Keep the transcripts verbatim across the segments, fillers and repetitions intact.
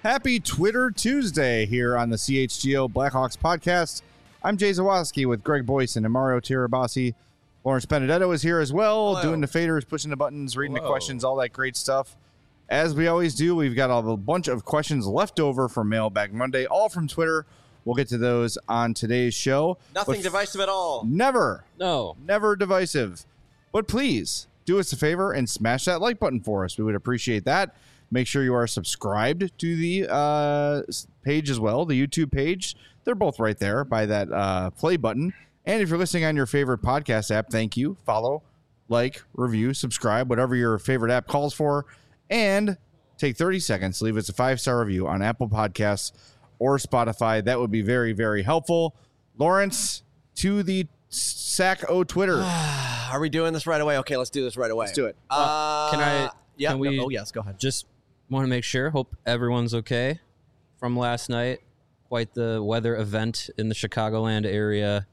Happy Twitter Tuesday here on the C H G O Blackhawks podcast. I'm Jay Zawaski with Greg Boyson and Mario Tirabassi. Lawrence Benedetto is here as well, Hello. doing the faders, pushing the buttons, reading Hello. the questions, all that great stuff. As we always do, we've got a bunch of questions left over from Mailbag Monday, all from Twitter. We'll get to those on today's show. Nothing But divisive at all. Never, No. never divisive. But please do us a favor and smash that like button for us. We would appreciate that. Make sure you are subscribed to the uh, page as well, the YouTube page. They're both right there by that uh, play button. And if you're listening on your favorite podcast app, thank you. Follow, like, review, subscribe, whatever your favorite app calls for. And take thirty seconds to leave us a five-star review on Apple Podcasts or Spotify. That would be very, very helpful. Lawrence, to the S A C O Twitter. Are we doing this right away? Okay, let's do this right away. Let's do it. Uh, Can I- Yeah. can we- no, oh, yes. Go ahead. Just want to make sure. Hope everyone's okay from last night. Quite the weather event in the Chicagoland area.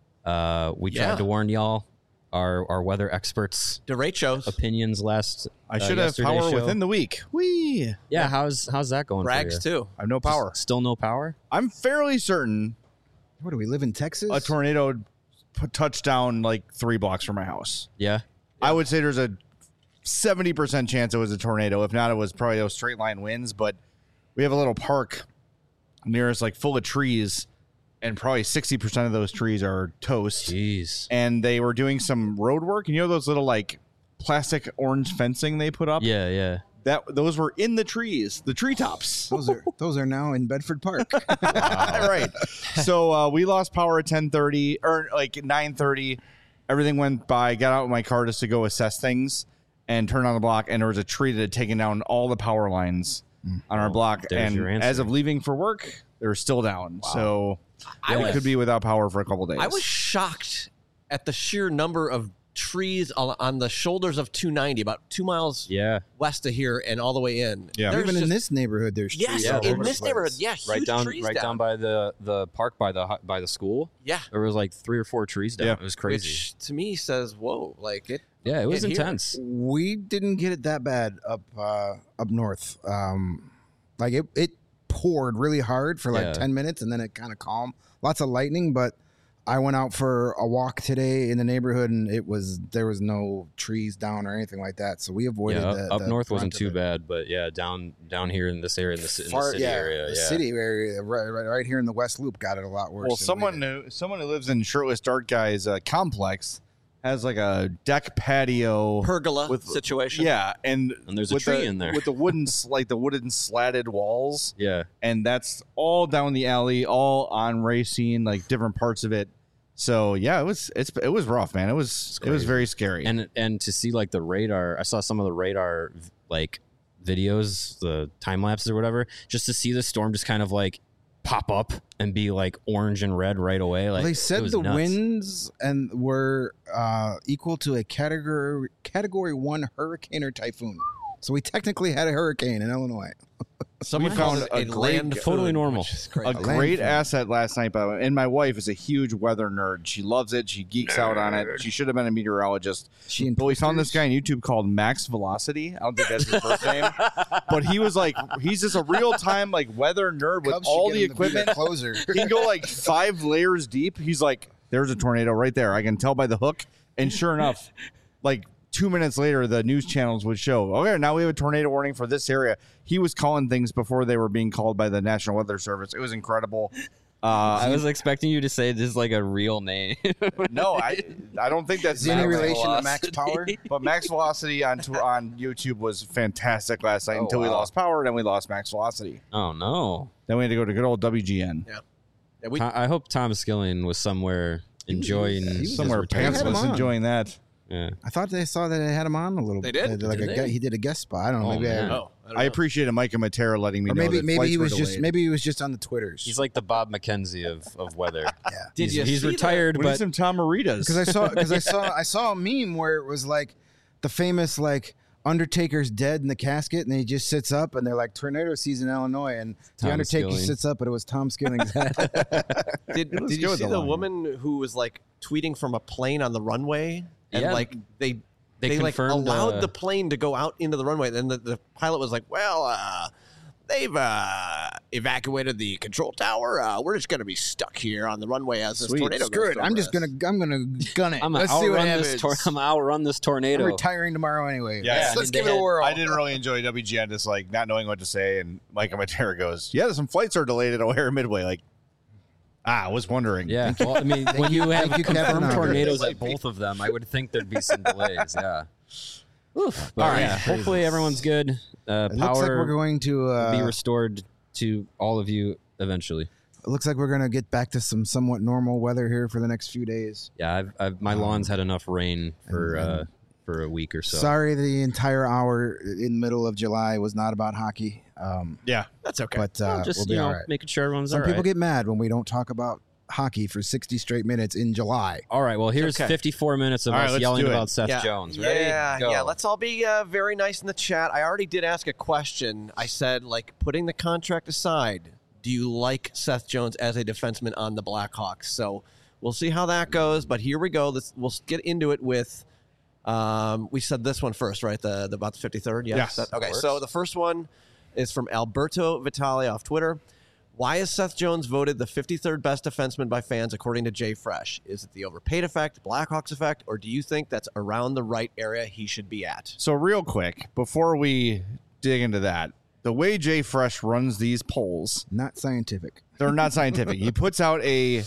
Uh, we Yeah. tried to warn y'all, our our weather experts' The rate shows. opinions last. I uh, should have yesterday's power show. within the week. Whee! Yeah, how's how's that going? Brags for you? too. I have no power. Still no power. I'm fairly certain What do we live in Texas? a tornado p- touched down like three blocks from my house. Yeah. I would say there's a seventy percent chance it was a tornado. If not, it was probably those straight line winds. But we have a little park near us, like full of trees, and probably sixty percent of those trees are toast. Jeez. And they were doing some road work. And you know those little like plastic orange fencing they put up? Yeah, yeah. That those were in the trees, the treetops. Those are those are now in Bedford Park. Right. So uh, we lost power at ten thirty or like nine thirty. Everything went by. Got out with my car just to go assess things and turn on the block. And there was a tree that had taken down all the power lines on our block. there's And your answer. as of leaving for work, they're still down. So I we was, could be without power for a couple days. I was shocked at the sheer number of trees on, on the shoulders of two ninety, about two miles Yeah. west of here and all the way in. Yeah. There's Even in just- this neighborhood, there's Yes, trees Yeah, all in over this the neighborhood. place. Yeah, huge Right down, trees right down by the the park by the hu- by the school. Yeah. There was like three or four trees down. Yeah. It was crazy. Which to me says, whoa, like it. yeah, it was in here. intense. We didn't get it that bad up uh, up north. Um, like it, it poured really hard for like Yeah. ten minutes, and then it kind of calmed. Lots of lightning, but I went out for a walk today in the neighborhood, and it was there was no trees down or anything like that. So we avoided Yeah, the, up the north wasn't brunt too of it. bad, but yeah, down down here in this area, in the, ci- in the Far- city yeah, area, the yeah, city area, right, right, right here in the West Loop, got it a lot worse. Well, than we someone did. who someone who lives in Shirtless Dart Guy's uh, complex has like a deck patio Pergola with situation. Yeah, and And there's a with tree the- in there. with the wooden s- like the wooden slatted walls. yeah. And that's all down the alley, all on Racine, like different parts of it. So yeah, it was it's it was rough, man. It was it was crazy. very scary. And and to see like the radar, I saw some of the radar like videos, the time lapses or whatever, just to see the storm just kind of like pop up and be like orange and red right away. Like Well, they it said was the nuts. winds and were uh, equal to a category category one hurricane or typhoon. So we technically had a hurricane in Illinois. Someone We found calls it a great- land totally food, normal. which is crazy. a land great food. asset last night, by the way. And my wife is a huge weather nerd. She loves it. She geeks out on it. She should have been a meteorologist. She and But we found this posters. guy on YouTube called Max Velocity. I don't think that's his first name. But he was like, he's just a real time like weather nerd with Cubs should all get the him to be their equipment. closer. He can go like five layers deep. He's like, there's a tornado right there. I can tell by the hook. And sure enough, like two minutes later, the news channels would show, okay, now we have a tornado warning for this area. He was calling things before they were being called by the National Weather Service. It was incredible. I Uh, was expecting you to say this is like a real name. no, I I don't think that's Is there any Max relation to Velocity. Max Power? But Max Velocity on tour, on YouTube was fantastic last night Oh, until we wow. lost power. Then we lost Max Velocity. Oh no! Then we had to go to good old W G N. Yeah, we, I I hope Tom Skilling was somewhere enjoying he was his Somewhere retirement. Had him pantsless on. enjoying that. Yeah. I thought they saw that they had him on a little. They did? Like Did a, they? gu- he did a guest spot. I don't know. Oh, maybe man. I, oh, I, don't I know. appreciated Micah Matera letting me or know maybe that maybe flights he were was just delayed. maybe he was just on the Twitters. He's like the Bob McKenzie of, of weather. yeah. Did he's you he's see the- retired, We need but some Tom Maritas. Because I saw because I saw I saw a meme where it was like the famous like Undertaker's dead in the casket and he just sits up and they're like tornado season in Illinois and the Tom Undertaker Skilling. sits up but it was Tom Skilling's head. Did, Let's did go you with see the the line. woman who was like tweeting from a plane on the runway and Yeah. like they They they, like confirmed, allowed uh, the plane to go out into the runway. Then the, the pilot was like, "Well, uh, they've uh, evacuated the control tower. Uh, we're just going to be stuck here on the runway as this Sweet. tornado Screw goes it. I'm over just us. gonna I'm gonna gun it. I'm gonna Let's see what outrun happens. this. Tor- I'm gonna outrun this I'm tornado. retiring tomorrow anyway. Yeah, let's, I let's mean, give they it a had- whirl. I didn't really enjoy W G N just like not knowing what to say, and Mike Matera goes, "Yeah, some flights are delayed at O'Hare Midway." Like, ah, I was wondering. Yeah, well, I mean, when you have thank you, Captain confirmed Hunter. tornadoes at both of them, I would think there'd be some delays. Yeah. Oof. But All right. yeah, hopefully everyone's good. Uh, It looks like we're power going to uh, be restored to all of you eventually. It looks like we're gonna get back to some somewhat normal weather here for the next few days. Yeah, I've, I've my lawns had enough rain for and- uh, for a week or so. Sorry, the entire hour in the middle of July was not about hockey. Um, yeah. That's okay. but uh, Well, just we'll be you know, all right. making sure everyone's Some all people right. get mad when we don't talk about hockey for sixty straight minutes in July. All right. Well, here's okay. fifty-four minutes of All right, us let's yelling do it. about Seth yeah. Jones. Ready? Yeah, Go. yeah. Let's all be uh, very nice in the chat. I already did ask a question. I said, like, putting the contract aside, do you like Seth Jones as a defenseman on the Blackhawks? So we'll see how that goes. But here we go. Let's, we'll get into it with. Um, we said this one first, right? The, the about the fifty-third. Yes. Yes, That- that okay. works. So the first one is from Alberto Vitale off Twitter. Why is Seth Jones voted the fifty-third best defenseman by fans according to Jay Fresh? Is it the overpaid effect, Blackhawks effect, or do you think that's around the right area he should be at? So real quick, before we dig into that, the way Jay Fresh runs these polls, Not scientific. they're not scientific. He puts out a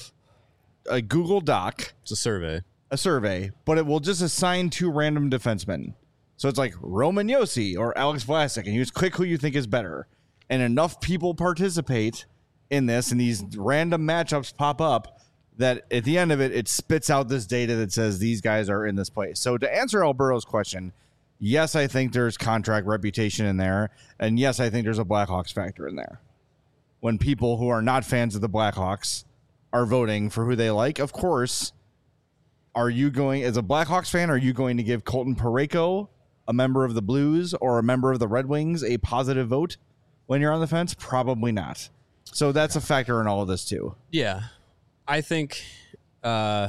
a Google Doc, It's a survey. a survey, but it will just assign two random defensemen. So it's like Roman Yossi or Alex Vlasic, and you just click who you think is better. And enough people participate in this, and these random matchups pop up that at the end of it, it spits out this data that says these guys are in this place. So to answer Alberto's question, yes, I think there's contract reputation in there, and yes, I think there's a Blackhawks factor in there. When people who are not fans of the Blackhawks are voting for who they like, of course, are you going, as a Blackhawks fan, are you going to give Colton Parayko, a member of the Blues or a member of the Red Wings, a positive vote when you're on the fence? Probably not. So that's a factor in all of this too. Yeah, I think, uh,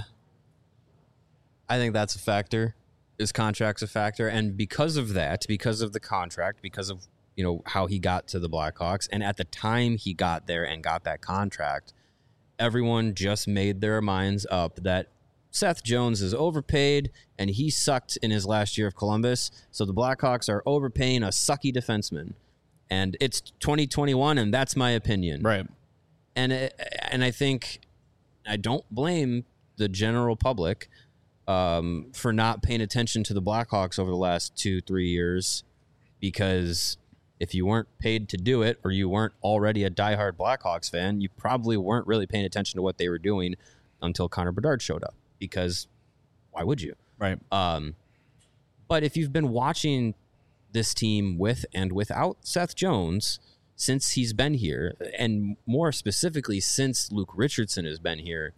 I think that's a factor. His contract's a factor, and because of that, because of the contract, because of you know how he got to the Blackhawks, and at the time he got there and got that contract, everyone just made their minds up that Seth Jones is overpaid and he sucked in his last year of Columbus. So the Blackhawks are overpaying a sucky defenseman, and it's twenty twenty-one, and that's my opinion. Right. And it, and I think I don't blame the general public um, for not paying attention to the Blackhawks over the last two, three years, because if you weren't paid to do it or you weren't already a diehard Blackhawks fan, you probably weren't really paying attention to what they were doing until Connor Bedard showed up, because why would you? Right. Um, but if you've been watching this team with and without Seth Jones since he's been here, and more specifically since Luke Richardson has been here,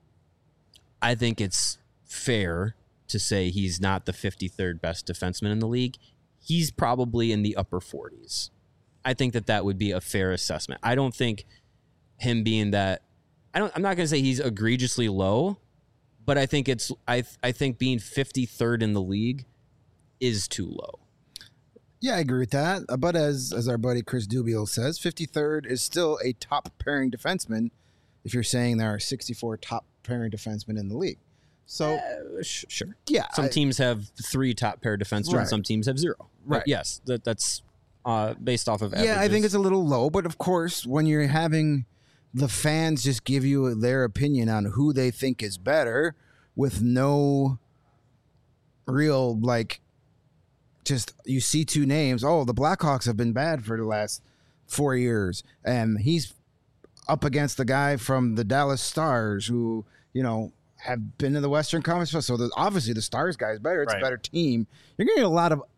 I think it's fair to say he's not the fifty-third best defenseman in the league. He's probably in the upper forties. I think that that would be a fair assessment. I don't think him being that, I don't, I'm not going to say he's egregiously low, but I think it's, I, I think being fifty-third in the league is too low. Yeah, I agree with that. Uh, But as as our buddy Chris Dubiel says, fifty-third is still a top pairing defenseman if you're saying there are sixty-four top pairing defensemen in the league. So, Uh, sh- sure. yeah. Some I- teams have three top pair defensemen, Right. and some teams have zero. But Right. yes, that, that's uh, based off of yeah, I think averages. it's a little low. But of course, when you're having the fans just give you their opinion on who they think is better with no real, like, just you see two names. Oh, the Blackhawks have been bad for the last four years. And he's up against the guy from the Dallas Stars who, you know, have been in the Western Conference. So the, obviously the Stars guy is better. It's Right. a better team. You're getting a lot of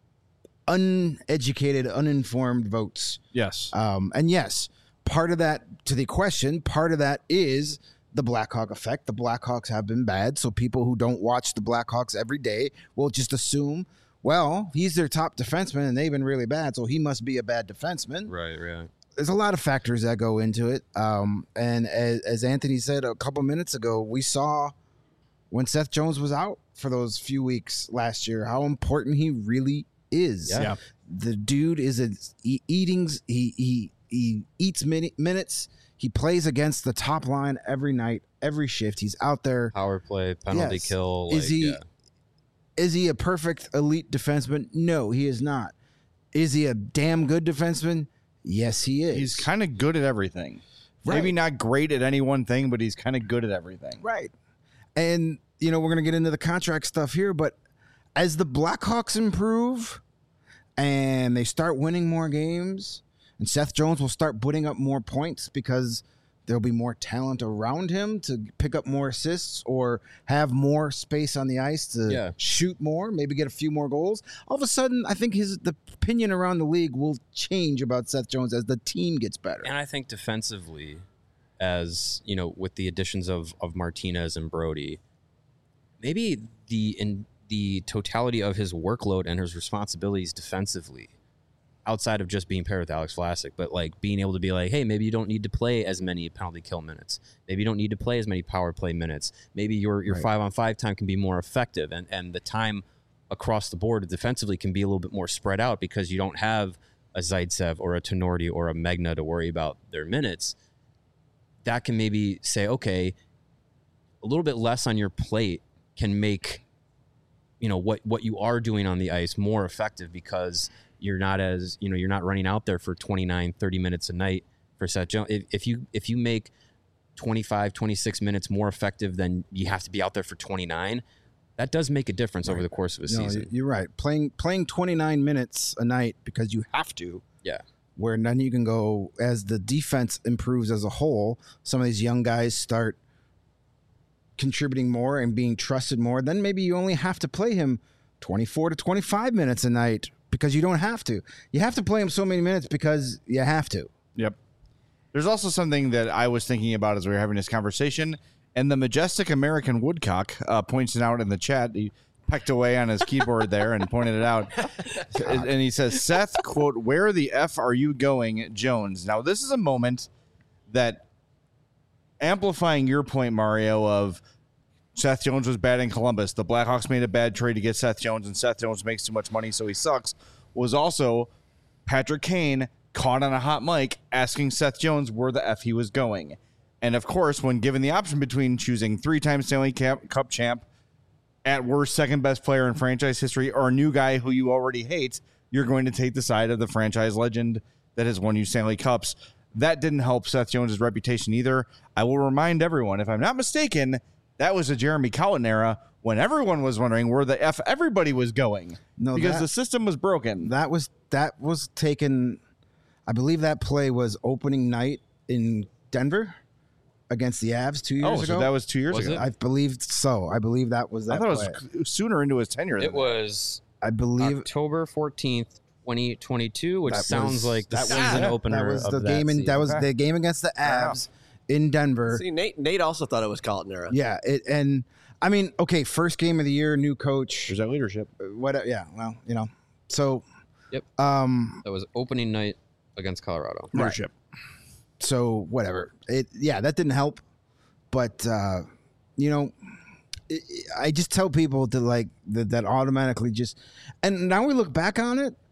uneducated, uninformed votes. Yes. Um, and yes, part of that, to the question, part of that is the Blackhawk effect. The Blackhawks have been bad, so people who don't watch the Blackhawks every day will just assume, well, he's their top defenseman and they've been really bad, so he must be a bad defenseman. right, right. There's a lot of factors that go into it. Um, and as, as Anthony said a couple minutes ago, we saw when Seth Jones was out for those few weeks last year how important he really is. Yeah. Yeah. The dude is a he eating. He he he eats mini, minutes. He plays against the top line every night, every shift. He's out there. Power play, penalty Yes. kill. Is like, he yeah. is he a perfect elite defenseman? No, he is not. Is he a damn good defenseman? Yes, he is. He's kind of good at everything. Maybe Right. not great at any one thing, but he's kind of good at everything. Right. And, you know, we're going to get into the contract stuff here, but as the Blackhawks improve and they start winning more games, and Seth Jones will start putting up more points because there'll be more talent around him to pick up more assists or have more space on the ice to Yeah. shoot more, maybe get a few more goals. All of a sudden, I think his the opinion around the league will change about Seth Jones as the team gets better. And I think defensively, as you know, with the additions of of Martinez and Brody, maybe the in the totality of his workload and his responsibilities defensively, outside of just being paired with Alex Vlasic, but like being able to be like, hey, maybe you don't need to play as many penalty kill minutes. Maybe you don't need to play as many power play minutes. Maybe your your Right. five on five time can be more effective, and and the time across the board defensively can be a little bit more spread out because you don't have a Zaitsev or a Tenorti or a Megna to worry about their minutes. That can maybe say, okay, a little bit less on your plate can make, you know, what what you are doing on the ice more effective because you're not as, you know, you're not running out there for twenty-nine, thirty minutes a night for Seth Jones. If, if you if you make twenty-five, twenty-six minutes more effective than you have to be out there for twenty-nine, that does make a difference over the course of a No, season. you're right. Playing playing twenty-nine minutes a night because you have to. Yeah. Where then you can go as the defense improves as a whole. Some of these young guys start contributing more and being trusted more. Then maybe you only have to play him twenty-four to twenty-five minutes a night because you don't have to. You have to play him so many minutes because you have to. Yep. There's also something that I was thinking about as we were having this conversation, and the majestic American Woodcock uh, points it out in the chat. He pecked away on his keyboard there and pointed it out. And he says, Seth, quote, where the F are you going, Jones? Now, this is a moment that, amplifying your point, Mario, of Seth Jones was bad in Columbus. The Blackhawks made a bad trade to get Seth Jones, and Seth Jones makes too much money, so he sucks, was also Patrick Kane caught on a hot mic asking Seth Jones where the F he was going. And, of course, when given the option between choosing three-time Stanley Cup champ, at worst second-best player in franchise history, or a new guy who you already hate, you're going to take the side of the franchise legend that has won you Stanley Cups. That didn't help Seth Jones' reputation either. I will remind everyone, if I'm not mistaken, that was a Jeremy Colliton era when everyone was wondering where the F everybody was going. No, because that- the system was broken. That was that was taken. I believe that play was opening night in Denver against the Avs two years oh, ago. so that was two years Was ago. it? I believe so. I believe that was that. I thought play. it was sooner into his tenure. than It that. was I believe October fourteenth, twenty twenty-two, which That sounds was- like the that was- season yeah, opener that was of the that game in that season. was the game against the Avs in Denver. See, Nate Nate also thought it was Colton era. Yeah, it, and I mean, okay, first game of the year, new coach. There's that leadership. What? Yeah, well, you know, so Yep. um, That was opening night against Colorado. Leadership. so whatever. It yeah, that didn't help, but uh, you know, it, I just tell people to like that, that automatically just, and now we look back on it,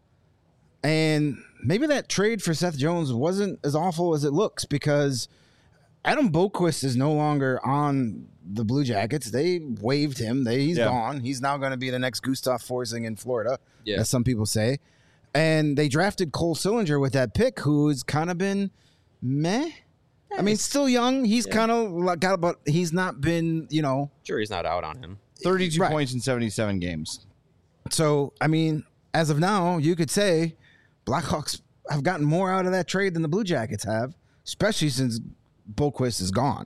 and maybe that trade for Seth Jones wasn't as awful as it looks because Adam Boqvist is no longer on the Blue Jackets. They waived him. They, he's Yeah. gone. He's now going to be the next Gustav Forsling in Florida, Yeah. as some people say. And they drafted Cole Sillinger with that pick, who's kind of been meh. I mean, still young. He's Yeah. kind of got, but he's not been, you know. Jury's not out on him. thirty-two Right. points in seventy-seven games. So, I mean, as of now, you could say Blackhawks have gotten more out of that trade than the Blue Jackets have, especially since Boqvist is gone.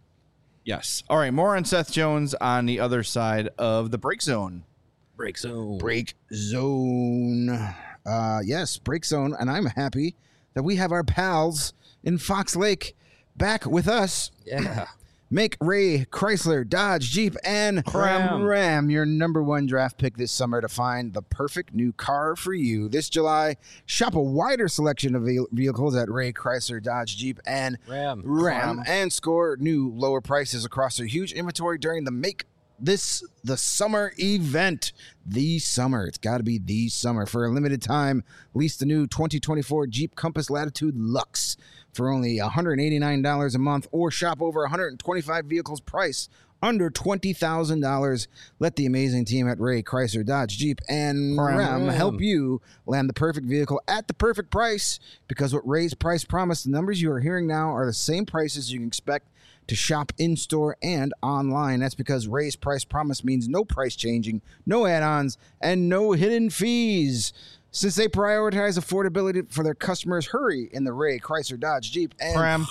Yes. All right. More on Seth Jones on the other side of the break zone. Break zone. Break zone. Uh, yes, break zone. And I'm happy that we have our pals in Fox Lake back with us. Yeah. Make Ray Chrysler, Dodge, Jeep, and Ram. Ram your number one draft pick this summer to find the perfect new car for you. This July, shop a wider selection of ve- vehicles at Ray Chrysler, Dodge, Jeep, and Ram. Ram and score new lower prices across their huge inventory during the Make this the summer event. The summer. It's got to be the summer. For a limited time, lease the new twenty twenty-four Jeep Compass Latitude Luxe for only one hundred eighty-nine dollars a month, or shop over one hundred twenty-five vehicles priced under twenty thousand dollars. Let the amazing team at Ray Chrysler Dodge Jeep and Ram. Ram help you land the perfect vehicle at the perfect price, because what Ray's price promise, the numbers you are hearing now, are the same prices you can expect to shop in-store and online. That's because Ray's price promise means no price changing, no add-ons, and no hidden fees. Since they prioritize affordability for their customers, hurry in the Ray Chrysler Dodge Jeep and Ram.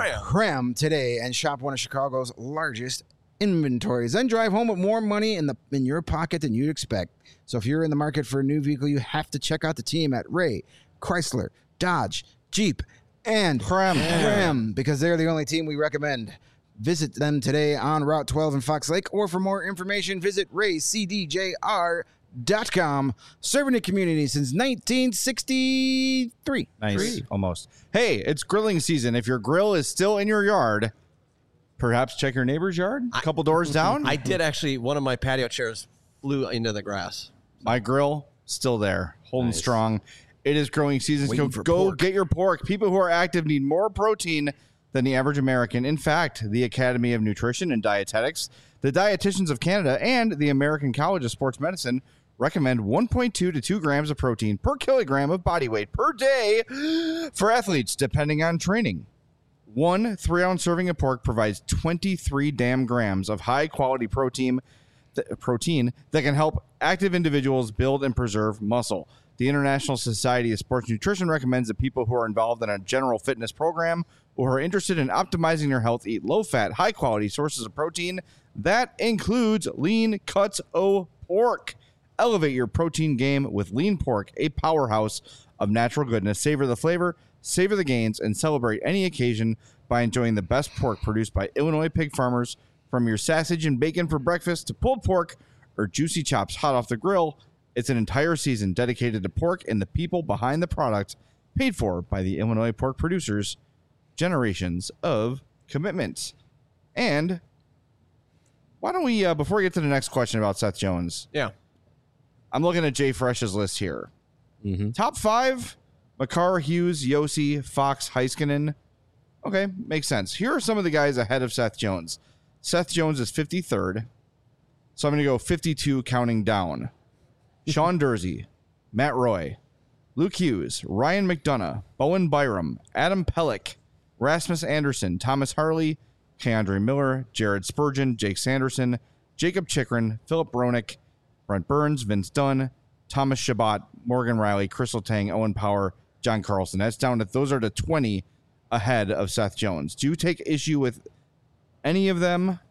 Ram today and shop one of Chicago's largest inventories. Then drive home with more money in the in your pocket than you'd expect. So if you're in the market for a new vehicle, you have to check out the team at Ray Chrysler Dodge Jeep and Ram. Ram, because they're the only team we recommend. Visit them today on Route twelve in Fox Lake, or for more information, visit ray c d j r dot com. Serving the community since nineteen sixty-three. Nice. Three. Almost. Hey, it's grilling season. If your grill is still in your yard, perhaps check your neighbor's yard, a couple doors down. I did actually. One of my patio chairs flew into the grass. My grill, still there, holding Nice. strong. It is growing season. So Waiting for go pork. get your pork. People who are active need more protein than the average American. In fact, the Academy of Nutrition and Dietetics, the Dietitians of Canada, and the American College of Sports Medicine recommend one point two to two grams of protein per kilogram of body weight per day for athletes, depending on training. One three-ounce serving of pork provides twenty-three damn grams of high-quality protein, th- protein that can help active individuals build and preserve muscle. The International Society of Sports Nutrition recommends that people who are involved in a general fitness program or are interested in optimizing their health eat low-fat, high-quality sources of protein. That includes lean cuts o' pork. Elevate your protein game with lean pork, a powerhouse of natural goodness. Savor the flavor, savor the gains, and celebrate any occasion by enjoying the best pork produced by Illinois pig farmers. From your sausage and bacon for breakfast to pulled pork or juicy chops hot off the grill, it's an entire season dedicated to pork and the people behind the product, paid for by the Illinois pork producers. Generations of commitment. And why don't we, uh, before we get to the next question about Seth Jones, Yeah. I'm looking at Jay Fresh's list here. Mm-hmm. Top five: Makar, Hughes, Yossi, Fox, Heiskanen. Okay, makes sense. Here are some of the guys ahead of Seth Jones. Seth Jones is fifty-third, so I'm going to go fifty-two counting down. Sean Dursey, Matt Roy, Luke Hughes, Ryan McDonough, Bowen Byram, Adam Pellick, Rasmus Anderson, Thomas Harley, Keandre Miller, Jared Spurgeon, Jake Sanderson, Jacob Chikrin, Philip Bronick, Brent Burns, Vince Dunn, Thomas Shabbat, Morgan Riley, Crystal Tang, Owen Power, John Carlson. That's down to, those are the twenty ahead of Seth Jones. Do you take issue with any of them?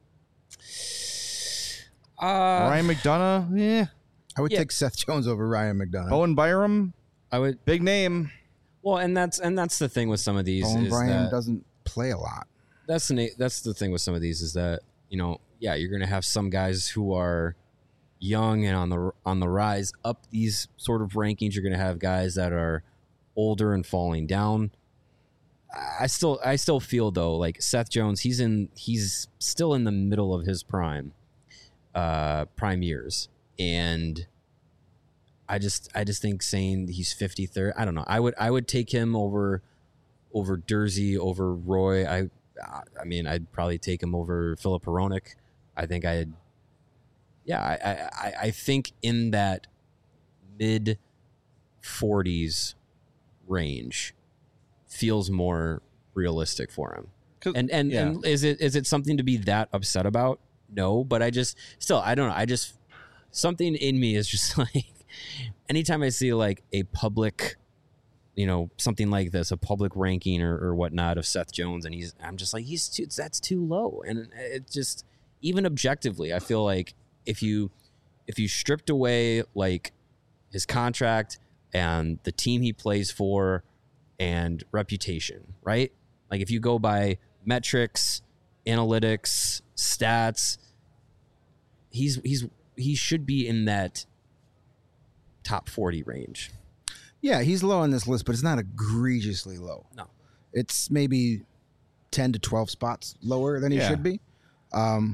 Uh, Ryan McDonough? Yeah. I would Yeah. take Seth Jones over Ryan McDonough. Owen Byram? I would. Big name. Well, and that's and that's the thing with some of these Owen is Bryan that doesn't play a lot. that's the na- that's the thing with some of these is that, you know, yeah, you're going to have some guys who are young and on the on the rise up these sort of rankings. You're going to have guys that are older and falling down. I still I still feel though like Seth Jones, he's in he's still in the middle of his prime uh prime years, and I just I just think saying he's fifty-third, I don't know. I would I would take him over over Dursey, over Roy. I I mean I'd probably take him over Philip Hronik. I think I'd yeah, I, I, I think in that mid forties range feels more realistic for him. 'Cause- And and, yeah. and is it is it something to be that upset about? No, but I just still I don't know. I just something in me is just like anytime I see like a public, you know, something like this, a public ranking or, or whatnot of Seth Jones, and he's I'm just like he's too that's too low, and it just even objectively, I feel like if you if you stripped away like his contract and the team he plays for and reputation, right? Like if you go by metrics, analytics, stats, he's he's he should be in that top forty range. Yeah, he's low on this list, but it's not egregiously low. No. It's maybe ten to twelve spots lower than he Yeah. should be. Um,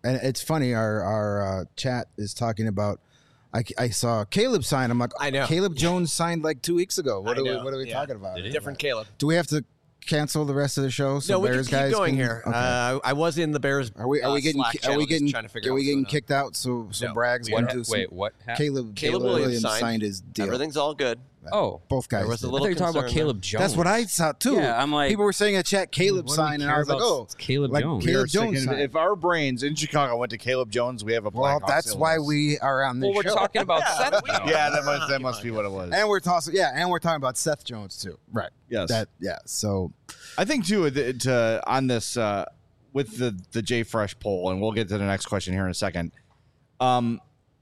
And it's funny. Our our uh, chat is talking about. I, I saw Caleb sign. I'm like, I know. Caleb Jones signed like two weeks ago. What I are we know. What are we Yeah. talking about? Different Caleb. Do we have to cancel the rest of the show? So No, we can Bears keep guys going can- here. Okay. Uh, I was in the Bears. are we are uh, we getting Slack ki- channel are we just getting trying to figure are out we what's getting going on. kicked out? So so No, Bragg's we went are to not. some- Wait, what? happened? Caleb Caleb Caleb Williams Williams signed. his deal. Everything's all good. Oh, Both guys. There was a did. I little thought you were talking about concern Caleb there. Jones. That's what I saw too. Yeah, I'm like- people were saying in the chat Caleb What do we signed, and care I was like, about? oh, It's Caleb like Jones. We Caleb are sick Jones and- signed. if our brains in Chicago went to Caleb Jones, we have a Well, Blackhawks that's why illness. we are on this Well, we're show. talking about Yeah, Seth. we- Jones. Yeah, that must that Come must on, be what it was. and we're tossing, yeah, and we're talking about Seth Jones too. Right. Yes, That yeah. So I think too to, to on this uh, with the the J Fresh poll, and we'll get to the next question here in a second. Um,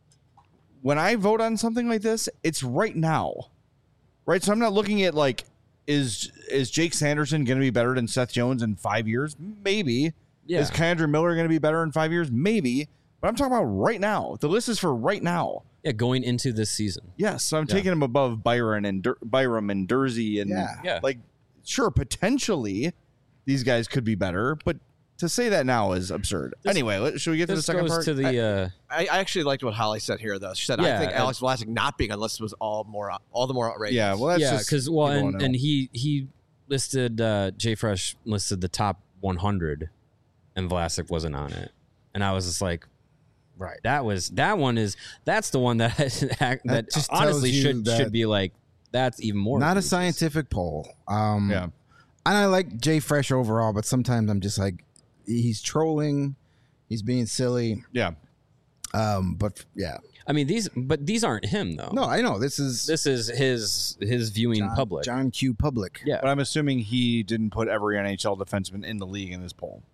when I vote on something like this, it's right now, right? So I'm not looking at like is is Jake Sanderson going to be better than Seth Jones in five years? Maybe. Yeah. Is Kyandra Miller going to be better in five years? Maybe. But I'm talking about right now. The list is for right now. Yeah, going into this season. Yes, so I'm Yeah. taking him above Byron and Dur- Byram and Dursey and Yeah. Yeah. like sure potentially these guys could be better, but to say that now is absurd. This- anyway, let, should we get to the This second goes part? to the. Uh, I, I actually liked what Holly said here, though. She said, Yeah, "I think and- Alex Vlasic not being on the list was all more, all the more outrageous." yeah, well, that's yeah, just because well, people and, wanna and know. he he listed uh, Jay Fresh listed the top one hundred, and Vlasic wasn't on it, and I was just like, right. that was that one is that's the one that that, That just honestly tells you should that- should be like that's even more Not a egregious. scientific poll. Um, yeah. And I like Jay Fresh overall, but sometimes I'm just like, he's trolling, he's being silly. Yeah. Um, but yeah, I mean these, but these aren't him though. no, I know this is this is his his viewing John, public. John Q. Public. Yeah, But I'm assuming he didn't put every N H L defenseman in the league in this poll.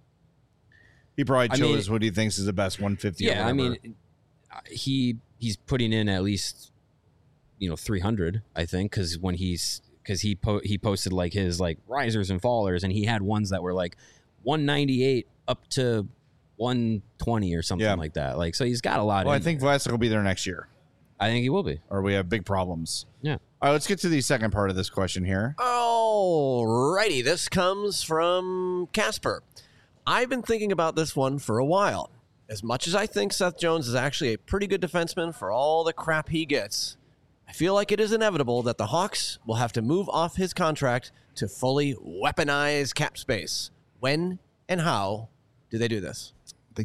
He probably I mean- chose what he thinks is the best one fifty. or yeah. I whatever. mean, he he's putting in at least you know three hundred. I think because when he's because he po- he posted like his like risers and fallers, and he had ones that were like one ninety-eight up to one twenty or something Yeah. like that. Like so, he's got a lot. well, I in think there. Vlasic will be there next year, I think he will be. or we have big problems. Yeah. All right, let's get to the second part of this question here. Alrighty, this comes from Casper. I've been thinking about this one for a while. As much as I think Seth Jones is actually a pretty good defenseman for all the crap he gets, I feel like it is inevitable that the Hawks will have to move off his contract to fully weaponize cap space. When and how do they do this? They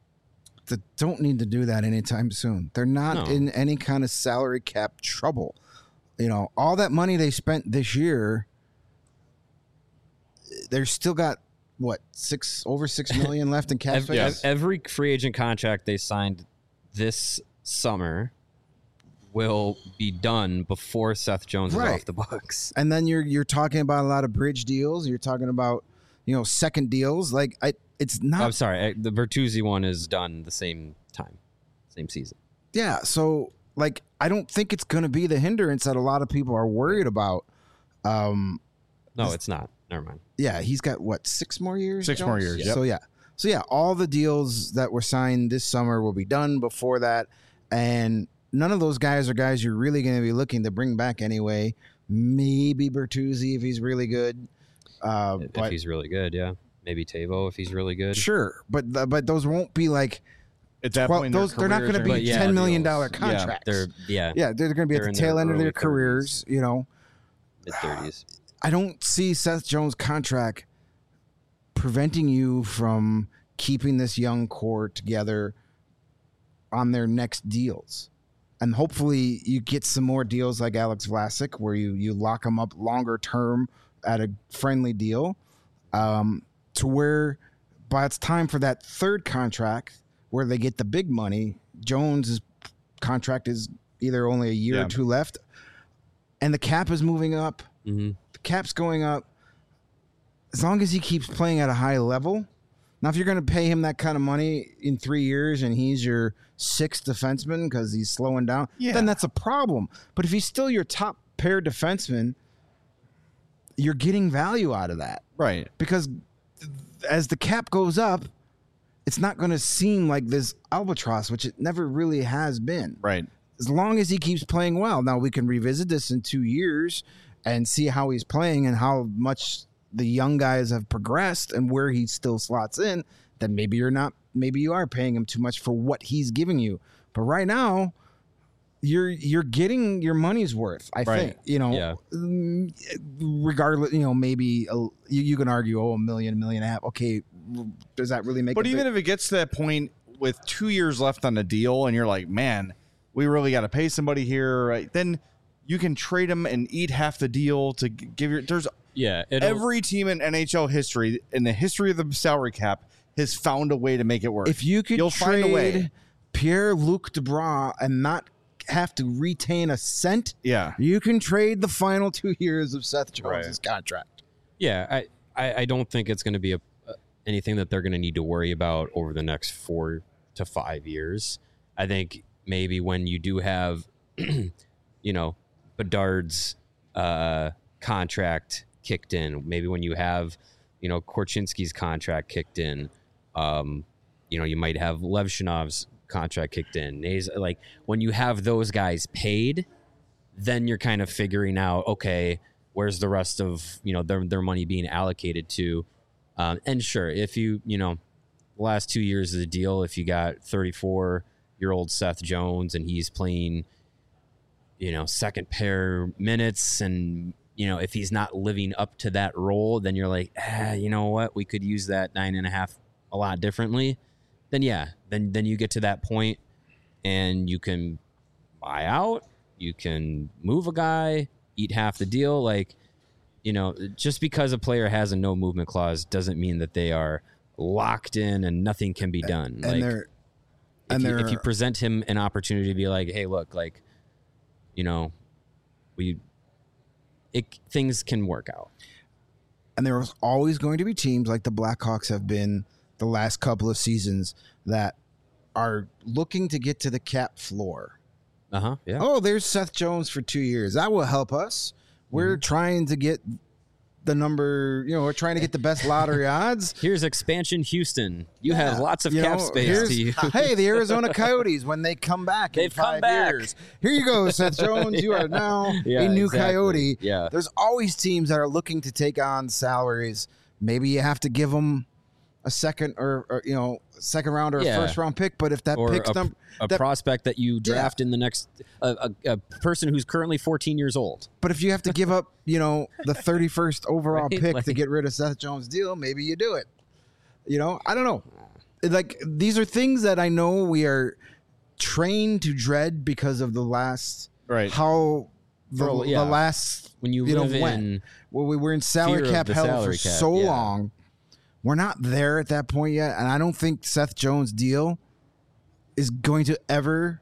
don't need to do that anytime soon. They're not No. in any kind of salary cap trouble. You know, all that money they spent this year, they're still got what six over six million left in cap Every, space. every free agent contract they signed this summer will be done before Seth Jones Right. is off the books. And then you're you're talking about a lot of bridge deals. You're talking about you know second deals. Like I, it's not. I'm sorry, eh, the Bertuzzi one is done the same time, same season. Yeah. So like I don't think it's going to be the hindrance that a lot of people are worried about. Um, No, it's not. Never mind. yeah, he's got what six more years. Six more years, yep. So yeah, so yeah, all the deals that were signed this summer will be done before that, and none of those guys are guys you're really going to be looking to bring back anyway. Maybe Bertuzzi if he's really good. Uh, If but he's really good, yeah. Maybe Tavo if he's really good. sure, but th- but those won't be like At that well, point, in their those they're not careers, going to they're be But yeah, ten million deals. dollar Yeah, contracts. They're yeah, yeah, they're going to be They're at in the their tail end of their early careers. You know, mid thirties. I don't see Seth Jones' contract preventing you from keeping this young core together on their next deals. And hopefully you get some more deals like Alex Vlasic where you, you lock them up longer term at a friendly deal um, to where by it's time for that third contract where they get the big money, Jones' contract is either only a year Yeah. or two left and the cap is moving up. Mm-hmm. The cap's going up. As long as he keeps playing at a high level. Now, if you're going to pay him that kind of money in three years and he's your sixth defenseman because he's slowing down, Yeah. then that's a problem. But if he's still your top pair defenseman, you're getting value out of that right. because as the cap goes up, it's not going to seem like this albatross, which it never really has been. Right. As long as he keeps playing well. Now we can revisit this in two years and see how he's playing and how much the young guys have progressed and where he still slots in. then maybe you're not. Maybe you are paying him too much for what he's giving you. But right now, you're you're getting your money's worth. I Right. think you know. Yeah. mm, Regardless, you know, maybe a, you, you can argue, oh, a million, a million and a half. Okay, does that really make? But a even big, if it gets to that point with two years left on the deal, and you're like, man, we really got to pay somebody here, right? Then you can trade him and eat half the deal to g- give your. There's Yeah. It'll, every team in N H L history, in the history of the salary cap, has found a way to make it work. if you could You'll trade find a way. Pierre-Luc Dubois and not have to retain a cent, Yeah. you can trade the final two years of Seth Jones' Right. contract. Yeah, I, I, I don't think it's going to be a, uh, anything that they're going to need to worry about over the next four to five years. I think maybe when you do have, you know, Bedard's uh, contract kicked in, maybe when you have, you know, Korchinski's contract kicked in, um, you know, you might have Levshinov's contract kicked in. Nays, like when you have those guys paid, then you're kind of figuring out, okay, where's the rest of, you know, their their money being allocated to? Um, and sure, if you, you know, the last two years of the deal, if you got thirty-four year old Seth Jones and he's playing, you know, second pair minutes, and you know, if he's not living up to that role, then you're like, ah, you know what, we could use that nine and a half a lot differently. Then yeah, then then you get to that point and you can buy out, you can move a guy, eat half the deal. Like, you know, just because a player has a no movement clause doesn't mean that they are locked in and nothing can be done. And like, they're if, and you, they're if you present him an opportunity to be like, hey, look, like, you know, we it things can work out. and there was always going to be teams like the Blackhawks have been the last couple of seasons that are looking to get to the cap floor. Uh huh. Yeah. Oh, there's Seth Jones for two years. That will help us. We're trying to get the number, you know, we're trying to get the best lottery odds. Here's expansion Houston. You Yeah. have lots of You cap know, space here's- to you. Hey, the Arizona Coyotes, when they come back in They've come five back. years. Here you go, Seth Jones. You are now Yeah, a new exactly. Coyote. Yeah. There's always teams that are looking to take on salaries. Maybe you have to give them a second or, or you know, second round or Yeah. a first round pick. But if that Or pick's a, number, a that- prospect that you draft in the next a, a, a person who's currently fourteen years old. but if you have to give up, you know, the thirty-first overall Right, pick like- to get rid of Seth Jones' deal, maybe you do it. You know, I don't know. Like, these are things that I know we are trained to dread because of the last Right. how the, For- yeah. the last When you, you know live when in well, we were in salary fear of cap the hell salary for cap, so yeah. long. We're not there at that point yet, and I don't think Seth Jones' deal is going to ever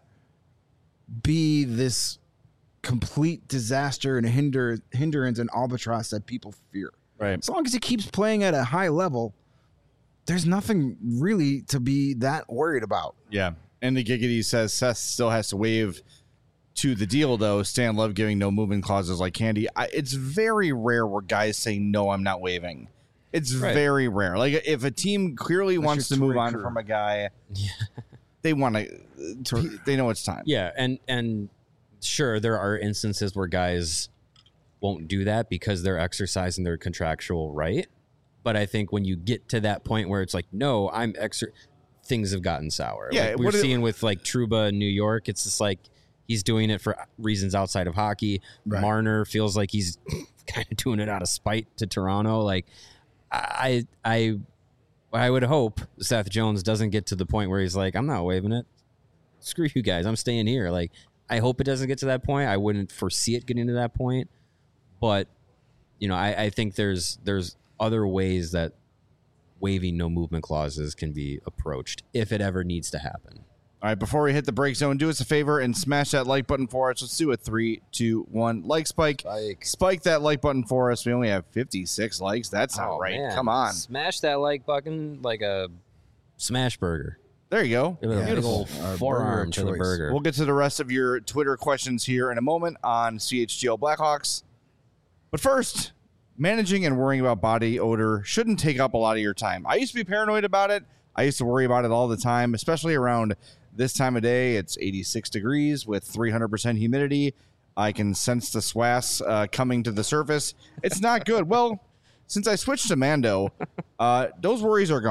be this complete disaster and hinder hindrance and albatross that people fear. Right. As long as he keeps playing at a high level, there's nothing really to be that worried about. Yeah. And the Giggity says Seth still has to waive to the deal, though. Stan Love giving no movement clauses like Candy. I, it's very rare where guys say, no, I'm not waiving. It's Right. very rare. Like, if a team clearly Unless wants to you're move Torrey on Krug. from a guy, they want to, they know it's time. yeah, and and sure there are instances where guys won't do that because they're exercising their contractual right. But I think when you get to that point where it's like, no, I'm exer, things have gotten sour. Yeah, like we're what it- seeing with like Trouba in New York. It's just like he's doing it for reasons outside of hockey. Right. Marner feels like he's kind of doing it out of spite to Toronto. Like I, I, I would hope Seth Jones doesn't get to the point where he's like, I'm not waiving it. Screw you guys. I'm staying here. Like, I hope it doesn't get to that point. I wouldn't foresee it getting to that point. But, you know, I, I think there's there's other ways that waiving no movement clauses can be approached if it ever needs to happen. All right, before we hit the break zone, do us a favor and smash that like button for us. Let's do a three, two, one. Like spike. Spike. Spike that like button for us. We only have fifty-six likes. That's not Oh, right. man. Come on. Smash that like button like a smash burger. There you go. Give it a Yeah, big Beautiful. old Our forearm burger to the choice. burger. We'll get to the rest of your Twitter questions here in a moment on C H G L Blackhawks. But first, managing and worrying about body odor shouldn't take up a lot of your time. I used to be paranoid about it. I used to worry about it all the time, especially around this time of day. It's eighty-six degrees with three hundred percent humidity. I can sense the swass uh, coming to the surface. It's not good. Well, since I switched to Mando, uh, those worries are gone.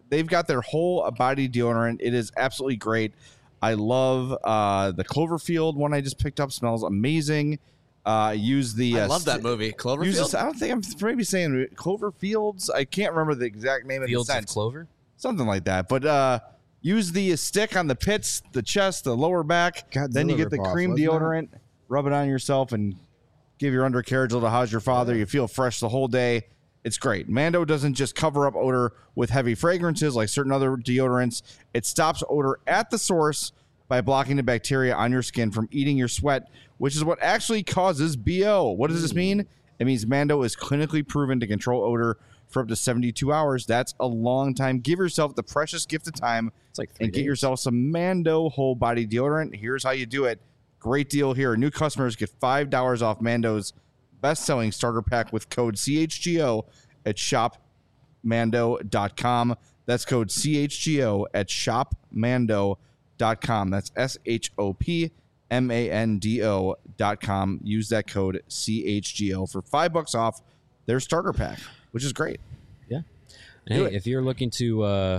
they've got their whole body deodorant. It is absolutely great. I love uh, the Cloverfield one I just picked up. Smells amazing. Uh, use the. I uh, love that movie, Cloverfield. Use the, I don't think I'm maybe saying Cloverfields. I can't remember the exact name Fields of the of scent. Clover? Something like that. But uh, use the stick on the pits, the chest, the lower back. Godzilla then you get the ripoff, cream wasn't it? deodorant. Rub it on yourself and give your undercarriage a little how's your father. You feel fresh the whole day. It's great. Mando doesn't just cover up odor with heavy fragrances like certain other deodorants. It stops odor at the source by blocking the bacteria on your skin from eating your sweat, which is what actually causes B O. What does this mean? It means Mando is clinically proven to control odor for up to seventy-two hours. That's a long time. Give yourself the precious gift of time It's like three and get days. yourself some Mando whole body deodorant. Here's how you do it. Great deal here. New customers get five dollars off Mando's best-selling starter pack with code C H G O at shop mando dot com. That's code C H G O at shop mando dot com. That's S H O P M A N D O dot com. Use that code C H G O for five bucks off their starter pack, which is great. Yeah. Do Hey, it. if you're looking to uh,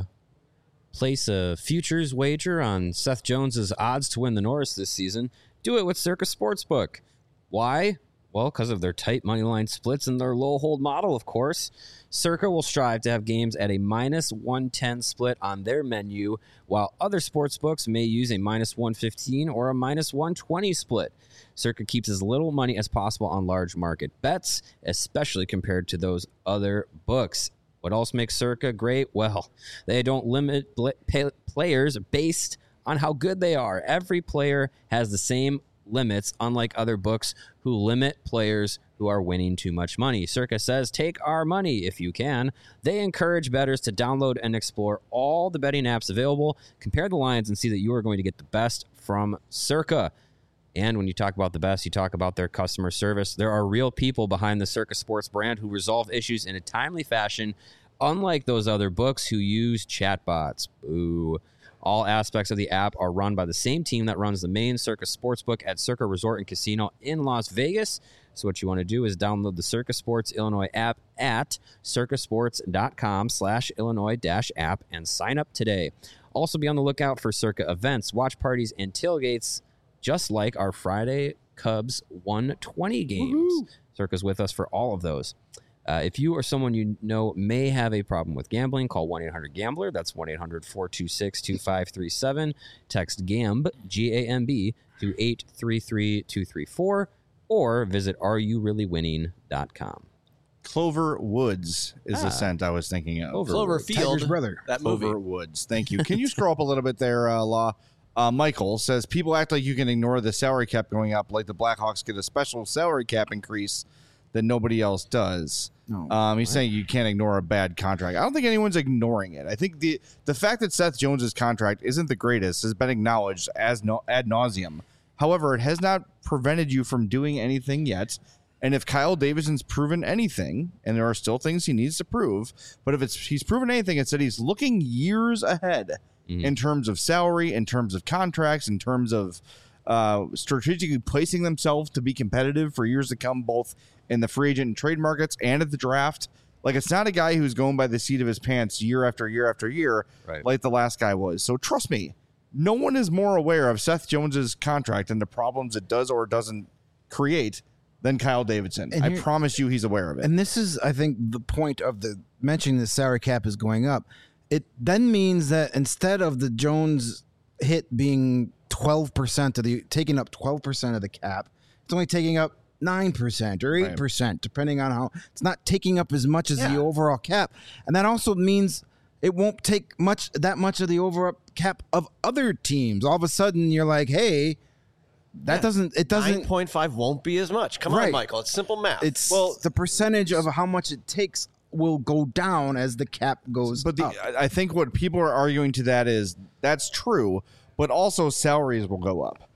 place a futures wager on Seth Jones's odds to win the Norris this season, do it with Circa Sportsbook. Why? Well, because of their tight money line splits and their low hold model, of course. Circa will strive to have games at a minus one ten split on their menu, while other sportsbooks may use a minus one fifteen or a minus one twenty split. Circa keeps as little money as possible on large market bets, especially compared to those other books. What else makes Circa great? Well, they don't limit bl- pay- players based on how good they are. Every player has the same limits, unlike other books who limit players who are winning too much money. Circa says, take our money if you can. They encourage bettors to download and explore all the betting apps available, compare the lines, and see that you are going to get the best from Circa. And when you talk about the best, you talk about their customer service. There are real people behind the Circa Sports brand who resolve issues in a timely fashion, unlike those other books who use chatbots. Boo. All aspects of the app are run by the same team that runs the main Circa Sportsbook at Circa Resort and Casino in Las Vegas. So what you want to do is download the Circa Sports Illinois app at circasports.com slash Illinois dash app and sign up today. Also be on the lookout for Circa events, watch parties, and tailgates, just like our Friday Cubs one twenty games. Woo-hoo. Circa's with us for all of those. Uh, if you or someone you know may have a problem with gambling, call one eight hundred gambler. That's one eight hundred four two six two five three seven. Text GAMB, G A M B, to eight three three two three four, or visit are you really winning dot com. Clover Woods is Ah. the scent I was thinking of. Cloverfield. Tiger's brother. That Clover movie. Woods. Thank you. Can you scroll up a little bit there, uh, Law? Uh, Michael says, people act like you can ignore the salary cap going up, like the Blackhawks get a special salary cap increase that nobody else does. No. Um, he's saying you can't ignore a bad contract. I don't think anyone's ignoring it. I think the the fact that Seth Jones's contract isn't the greatest has been acknowledged as no, ad nauseum. However, it has not prevented you from doing anything yet. And if Kyle Davidson's proven anything, and there are still things he needs to prove, but if it's he's proven anything, it's that he's looking years ahead Mhm. in terms of salary, in terms of contracts, in terms of uh, strategically placing themselves to be competitive for years to come, both in the free agent and trade markets and at the draft. Like, it's not a guy who's going by the seat of his pants year after year after year, Right. like the last guy was. So trust me, no one is more aware of Seth Jones's contract and the problems it does or doesn't create than Kyle Davidson. And I here- promise you he's aware of it. And this is, I think, the point of the mentioning the salary cap is going up. It then means that instead of the Jones hit being twelve percent of the taking up twelve percent of the cap, it's only taking up nine percent or eight percent, depending on how it's not taking up as much as Yeah. the overall cap. And that also means it won't take much that much of the overall cap of other teams. All of a sudden you're like, hey, that Yeah. doesn't it doesn't nine point five won't be as much. Come on, Right. Michael. It's simple math. it's Well- the percentage of how much it takes will go down as the cap goes But the, up. I I think what people are arguing to that is that's true, but also salaries will go up.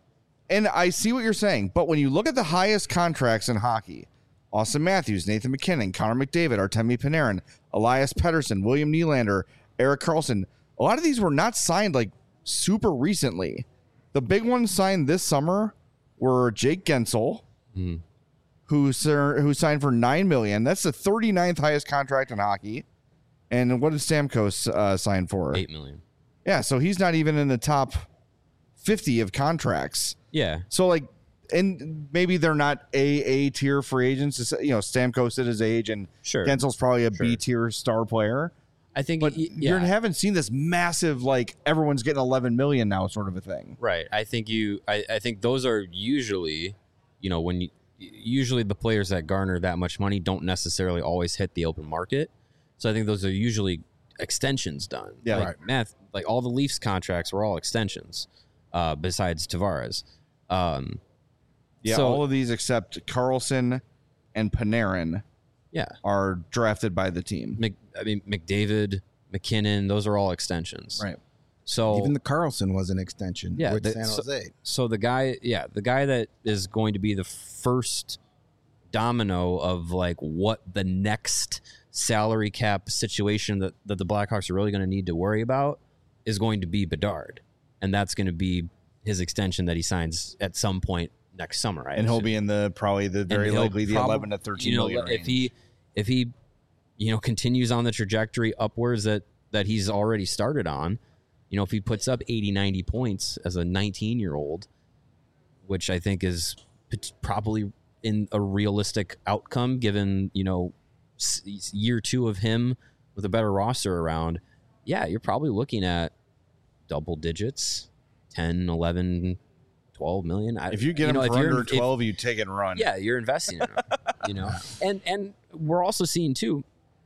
And I see what you're saying, but when you look at the highest contracts in hockey, Austin Matthews, Nathan McKinnon, Connor McDavid, Artemi Panarin, Elias Pettersson, William Nylander, Eric Carlson, a lot of these were not signed like super recently. The big ones signed this summer were Jake Gensel, Mm. who, sir, who signed for nine million dollars. That's the thirty-ninth highest contract in hockey. And what did Stamkos uh, sign for? Eight million. Yeah, so he's not even in the top fifty of contracts. Yeah. So like, and maybe they're not a A tier free agents. You know, Stamkos at his age, and Sure. Gensel's probably a Sure. B tier star player. I think, But y- you yeah. haven't seen this massive like everyone's getting eleven million now sort of a thing. Right. I think you. I, I think those are usually, you know, when you usually the players that garner that much money don't necessarily always hit the open market. So I think those are usually extensions done. Yeah, like right. Math, like all the Leafs contracts were all extensions, uh, besides Tavares. Um, Yeah, so, all of these except Carlson and Panarin yeah. are drafted by the team. Mc, I mean McDavid, McKinnon, those are all extensions. Right. So Even the Carlson was an extension Yeah, with the- San so- Jose. So the guy, yeah, the guy that is going to be the first domino of like what the next salary cap situation that, that the Blackhawks are really going to need to worry about is going to be Bedard. And that's going to be his extension that he signs at some point next summer. I And he'll assume. be in the probably the And very he'll likely the prob- eleven to thirteen you know, million if he if he you know continues on the trajectory upwards that that he's already started on, you know, if he puts up eighty, ninety points as a nineteen year old, which I think is p- probably in a realistic outcome given, you know, s- year two of him with a better roster around, yeah, you're probably looking at double digits, ten, eleven, twelve million. I, if you get know, him if for you're- under if- twelve, you take it and run. yeah, you're investing in them, you know. And and we're also seeing too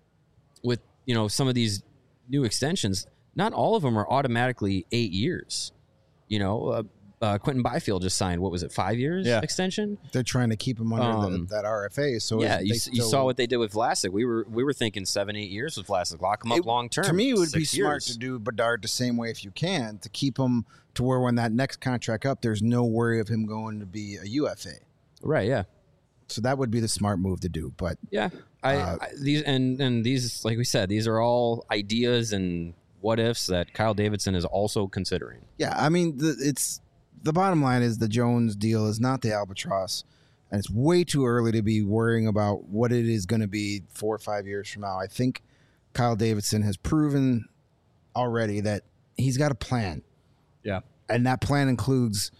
with, you know, some of these new extensions, not all of them are automatically eight years. You know, uh, uh, Quentin Byfield just signed, what was it, five years Yeah. extension? They're trying to keep him under Um, the, that R F A. So yeah, if you, they s- you still- saw what they did with Vlasic. We were we were thinking seven, eight years with Vlasic. Lock him up It- long term. To me, it would be six smart years. to do Bedard the same way if you can, to keep him to where when that next contract up, there's no worry of him going to be a U F A. Right, yeah. So that would be the smart move to do. But Yeah, I, Uh, I these and and these, like we said, these are all ideas and what ifs that Kyle Davidson is also considering. yeah, I mean, the, it's the bottom line is the Jones deal is not the albatross, and it's way too early to be worrying about what it is going to be four or five years from now. I think Kyle Davidson has proven already that he's got a plan. Yeah. And that plan includes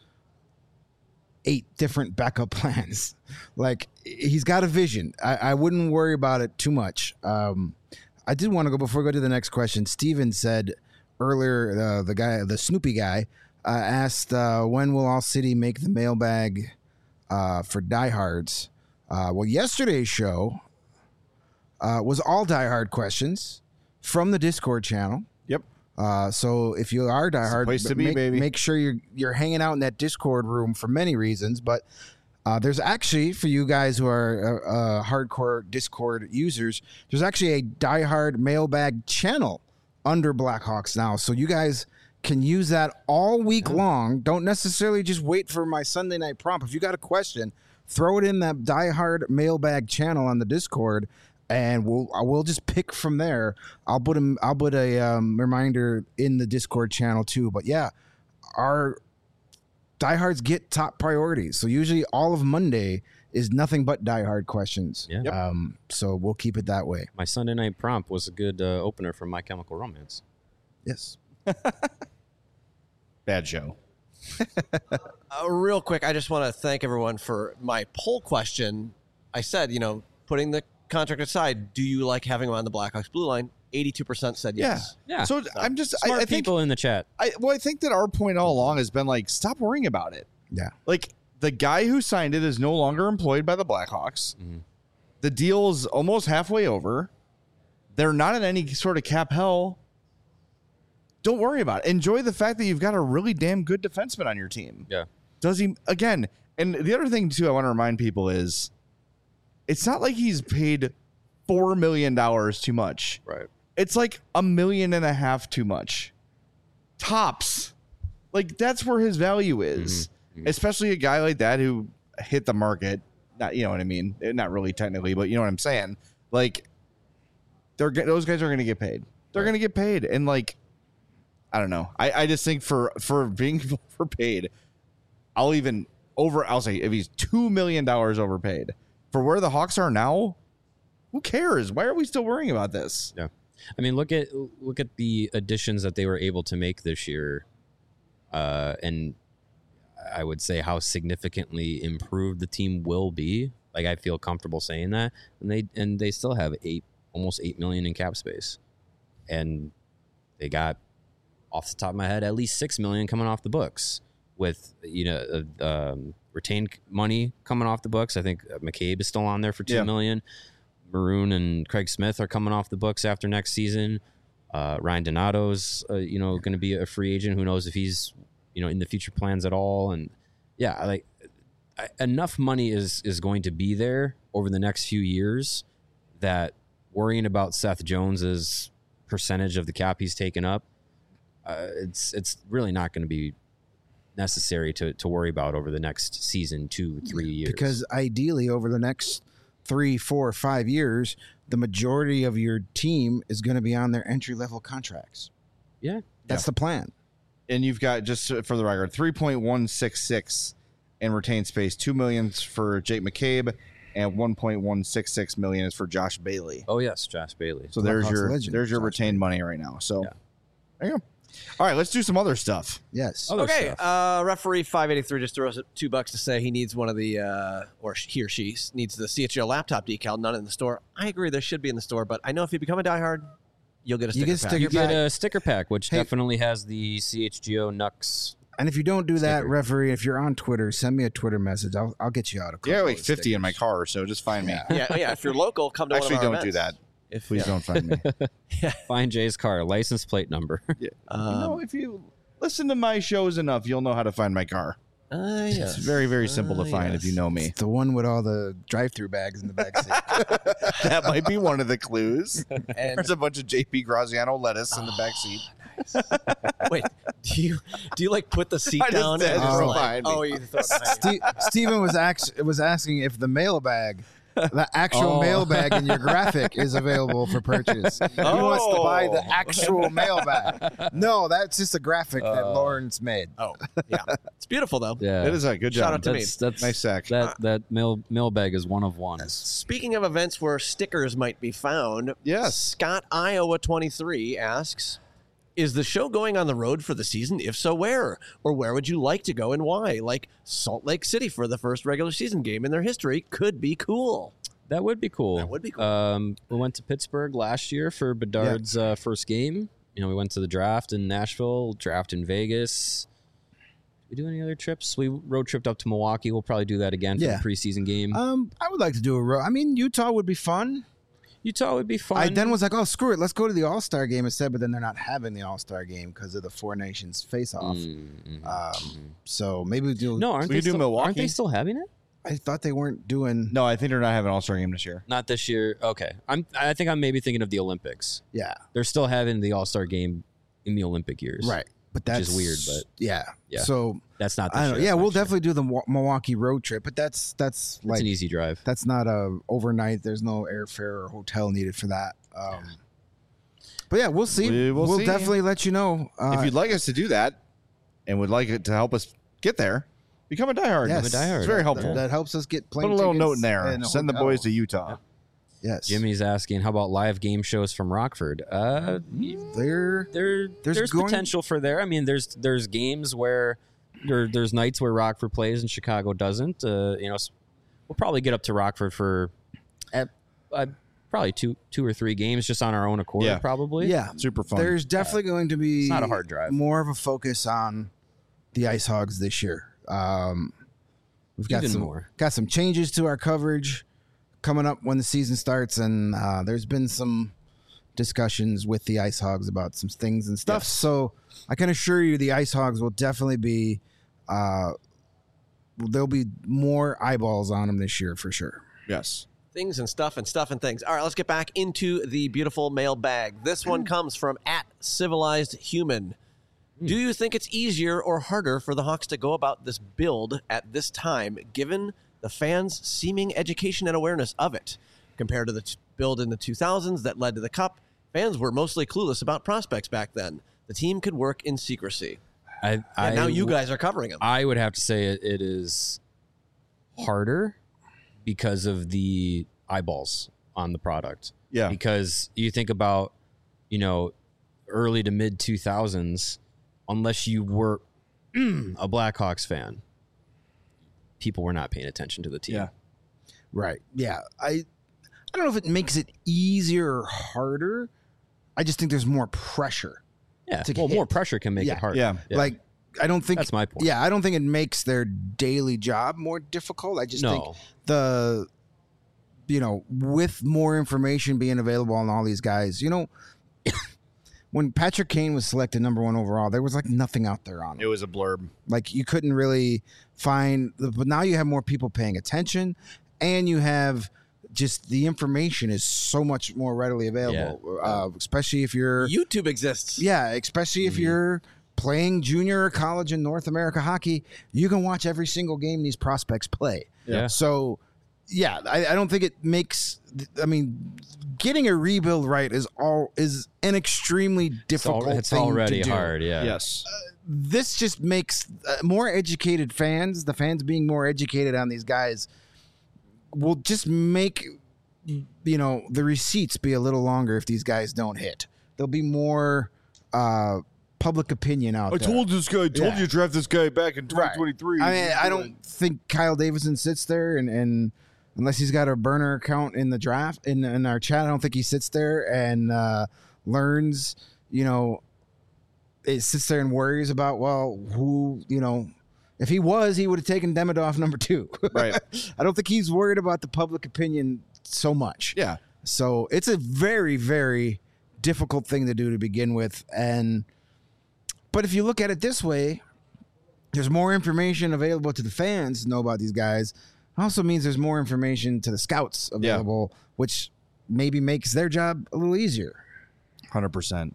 eight different backup plans. Like, he's got a vision. I, I wouldn't worry about it too much. Um, I did want to go before we go to the next question. Steven said earlier, uh, the guy, the Snoopy guy, uh, asked, uh, when will All City make the mailbag uh, for diehards? Uh, well, yesterday's show uh, was all diehard questions from the Discord channel. Yep. Uh, so if you are diehard, place to be, make, baby. make sure you're you're hanging out in that Discord room for many reasons. But uh, there's actually, for you guys who are uh, uh, hardcore Discord users, there's actually a diehard mailbag channel under Blackhawks now. So you guys can use that all week long. Don't necessarily just wait for my Sunday night prompt. If you got a question, throw it in that diehard mailbag channel on the Discord, and we'll we'll just pick from there. I'll put a I'll put a um, reminder in the Discord channel too. But yeah, our diehards get top priorities. So usually all of Monday is nothing but diehard questions. Yeah. Yep. Um. So we'll keep it that way. My Sunday night prompt was a good uh, opener for My Chemical Romance. Yes. Bad show. Uh, real quick, I just want to thank everyone for my poll question. I said, you know, putting the contract aside, do you like having him on the Blackhawks blue line? eighty-two percent said yes. Yeah. So I'm just, I, Smart I think, people in the chat. I well, I think that our point all along has been like, stop worrying about it. Yeah. Like the guy who signed it is no longer employed by the Blackhawks. Mhm. The deal is almost halfway over. They're not in any sort of cap hell. Don't worry about it. Enjoy the fact that you've got a really damn good defenseman on your team. Yeah. Does he again? And the other thing too, I want to remind people is, it's not like he's paid four million dollars too much. Right. It's like a million and a half too much, tops. Like that's where his value is, Mhm. Mhm. especially a guy like that who hit the market. Not you know what I mean? Not really technically, but you know what I'm saying. Like they're g- those guys are going to get paid. They're Right. going to get paid, and like I don't know. I, I just think for for being overpaid, I'll even over. I'll say if he's two million dollars overpaid for where the Hawks are now, who cares? Why are we still worrying about this? Yeah. I mean, look at look at the additions that they were able to make this year, uh, and I would say how significantly improved the team will be. Like, I feel comfortable saying that, and they and they still have eight almost eight million in cap space, and they got, off the top of my head, at least six million coming off the books with, you know, uh, um, retained money coming off the books. I think McCabe is still on there for two Yeah. million. Maroon and Craig Smith are coming off the books after next season. Uh, Ryan Donato's, uh, you know, going to be a free agent. Who knows if he's, you know, in the future plans at all? And yeah, like I, enough money is is going to be there over the next few years that worrying about Seth Jones's percentage of the cap he's taken up, uh, it's it's really not going to be necessary to to worry about over the next season, two, three years. Because ideally, over the next three, four, five years, the majority of your team is going to be on their entry level contracts. yeah, That's Yeah. the plan. And you've got, just for the record, three point one six six in retained space. Two million for Jake McCabe, and one point one six six million is for Josh Bailey. oh yes, Josh Bailey. So there's Blackhawks your legend, there's your Josh retained money right now. So Yeah. there you go. All right, let's do some other stuff. Yes. Other Okay, stuff. uh, referee five eighty-three just throws two bucks to say he needs one of the, uh, or he or she needs the C H G O laptop decal, none in the store. I agree, there should be in the store, but I know if you become a diehard, you'll get a You sticker get pack. sticker You get pack. a sticker pack, which Hey. definitely has the C H G O N U X. And if you don't do that, Sticker. referee, if you're on Twitter, send me a Twitter message. I'll, I'll get you out a couple Yeah, like of fifty in my stickers. car, so just find me. Yeah. yeah, yeah. If you're local, come to Actually, one of our don't do events. that. If, Please yeah. don't find me. Find Jay's car, license plate number. you Um, know, if you listen to my shows enough, you'll know how to find my car. Uh, yes. It's very, very simple to Ah, find if yes. you know me. It's the one with all the drive-through bags in the back seat. That might be one of the clues. And There's a bunch of J P Graziano lettuce in the back seat. wait, do you do you like put the seat I just down? said and throw like, it behind me. oh, you throw it behind you. Steve, Steven was ax- was asking if the mailbag, the actual Oh. mailbag in your graphic is available for purchase. He wants to buy the Oh. actual mailbag. No, that's just a graphic that Uh. Lawrence made. Oh, yeah, it's beautiful though. Yeah, It is a good Shout job. out to me. that's that's Nice sack. That that mail mailbag is one of one. Speaking of events where stickers might be found, Yes. Scott Iowa twenty-three asks, is the show going on the road for the season? If so, where? Or where would you like to go and why? Like Salt Lake City for the first regular season game in their history could be cool. That would be cool. That would be cool. Um, we went to Pittsburgh last year for Bedard's uh, first game. You know, we went to the draft in Nashville, draft in Vegas. Did we do any other trips? We road tripped up to Milwaukee. We'll probably do that again for Yeah. the preseason game. Um, I would like to do a row. I mean, Utah would be fun. Utah would be fun. I then was like, oh, screw it. Let's go to the All Star game instead. But then they're not having the All Star game because of the Four Nations face off. Mm, mm. Um, so maybe we do. no, aren't we they could do still, Milwaukee. Aren't they still having it? I thought they weren't doing. No, I think they're not having an All-Star game this year. Not this year. Okay, I'm. I think I'm maybe thinking of the Olympics. Yeah, They're still having the All Star game in the Olympic years. right. But Which that's is weird, but- yeah. Yeah. So That's not. This I don't know. year, Yeah, that's we'll next year. definitely do the Wa- Milwaukee road trip. But that's that's It's like an easy drive. that's not a overnight. There's no airfare or hotel needed for that. Um, but yeah, we'll see. We will we'll see. definitely let you know. Uh, if you'd like us to do that and would like it to help us get there, become a diehard. yes, Become a diehard. It's very that- helpful. That, helps us get plane Put a little tickets note in there. and a Send the hotel. boys to Utah. Yes, Jimmy's asking, how about live game shows from Rockford? Uh, There, there, There's there's, going- potential for there. I mean, there's there's games where there, there's nights where Rockford plays and Chicago doesn't. Uh, you know, s- we'll probably get up to Rockford for uh, uh, probably two two or three games just on our own accord. Yeah. Probably. yeah. Super fun. There's definitely going to be It's not a hard drive. more of a focus on the Ice Hogs this year. Um, we've got Even some more. got some changes to our coverage coming up when the season starts, and uh, there's been some discussions with the Ice Hogs about some things and stuff. Yes. So I can assure you, the Ice Hogs will definitely be. Uh, there'll be more eyeballs on them this year for sure. yes. Things and stuff and stuff and things. All right, let's get back into the beautiful mailbag. This one comes from at Civilized Human. Do you think it's easier or harder for the Hawks to go about this build at this time, given the fans' seeming education and awareness of it? Compared to the t- build in the two thousands that led to the Cup, fans were mostly clueless about prospects back then. The team could work in secrecy. I, I And now you w- guys are covering them. I would have to say it, it is harder because of the eyeballs on the product. Yeah. Because you think about you know, early to mid two thousands, unless you were a Blackhawks fan, people were not paying attention to the team. Yeah. Right. Yeah. I I don't know if it makes it easier or harder. I just think there's more pressure. Yeah. To Well, hit. more pressure can make Yeah. it harder. Yeah. Like, I don't think That's my point. Yeah, I don't think it makes their daily job more difficult. I just think No. the you know, with more information being available on all these guys, you know, when Patrick Kane was selected number one overall, there was like nothing out there on him. It was a blurb. Like you couldn't really find, but now you have more people paying attention, and you have just the information is so much more readily available, uh, especially if you're YouTube exists. yeah, especially if you're playing junior or college in North America hockey, you can watch every single game these prospects play. Yeah. So, yeah, I, I don't think it makes. I mean, getting a rebuild right is all is an extremely It's, difficult. al- it's thing already to do. hard. Yeah. Yes. This just makes uh, more educated fans. The fans being more educated on these guys will just make you know the receipts be a little longer if these guys don't hit. There'll be more uh, public opinion out there. this guy. I told Yeah. you to draft this guy back in Right. I mean, I don't think Kyle Davidson sits there and, and unless he's got a burner account in the draft in in our chat, I don't think he sits there and uh, learns. You know, it sits there and worries about well, who you know. If he was, he would have taken Demidov number two. Right. I don't think he's worried about the public opinion so much. Yeah. So it's a very, very difficult thing to do to begin with. And but if you look at it this way, there's more information available to the fans to know about these guys. It also means there's more information to the scouts available, which maybe makes their job a little easier. Hundred percent.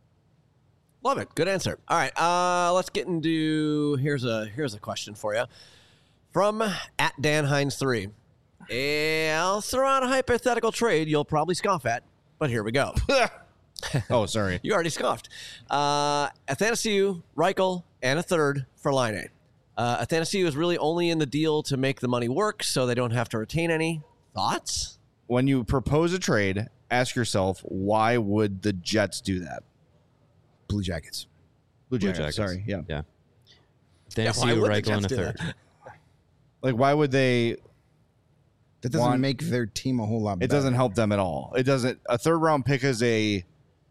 Love it. Good answer. All right. Uh, let's get into here's a here's a question for you from at Dan Hines three. I'll throw out a hypothetical trade you'll probably scoff at, but here we go. Oh, sorry. You already scoffed. Uh, Athanasiou, Reichel, and a third for Line. Uh, Athanasiou is really only in the deal to make the money work, so they don't have to retain any. Thoughts? When you propose a trade, ask yourself, why would the Jets do that? Blue Jackets. Blue Blue Jackets. Jackets. Sorry. Yeah. Yeah. Yeah, why Athanasiou, would the Reichel, and a Jets do third. that? Uh, Like, why would they? That doesn't One- make their team a whole lot It better. doesn't help them at all. It doesn't. A third round pick is a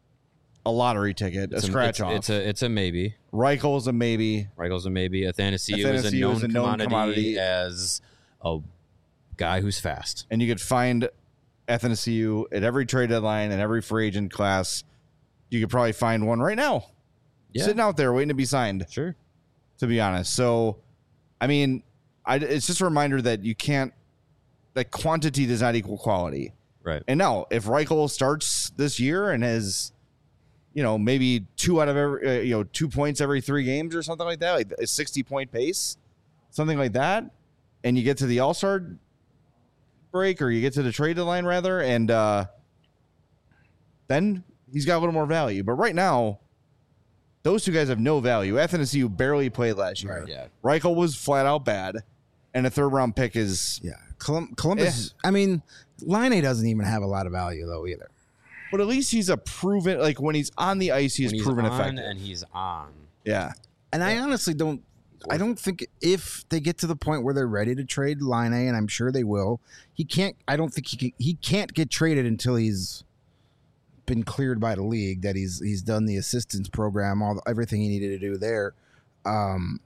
a lottery ticket, a It's scratch it's, off. It's a it's a maybe. Reichel's a maybe. Reichel's a maybe. Athanasiou, is a Athanasiou known, is a known commodity, commodity. as a guy who's fast. And you could find Athanasiou at every trade deadline and every free agent class. You could probably find one right now, Yeah. sitting out there waiting to be signed. Sure. To be honest, so I mean, I, it's just a reminder that you can't. That quantity does not equal quality. Right. And now, if Reichel starts this year and has, you know, maybe two out of every, uh, you know, two points every three games or something like that, like a sixty point pace, something like that, and you get to the All Star break or you get to the trade deadline rather, and uh, then he's got a little more value. But right now, those two guys have no value. Athanasiou barely played last year. Right. Yeah. Reichel was flat out bad, and a third round pick is. Yeah. Colum- Columbus, I mean, Line A doesn't even have a lot of value, though, either. But at least he's a proven, like when he's on the ice, he's When he's proven on effective. and he's on. Yeah. And I honestly don't. I don't think if they get to the point where they're ready to trade Line A, and I'm sure they will, he can't. I don't think he can, he can't get traded until he's been cleared by the league. That he's he's done the assistance program, all everything he needed to do there. Um,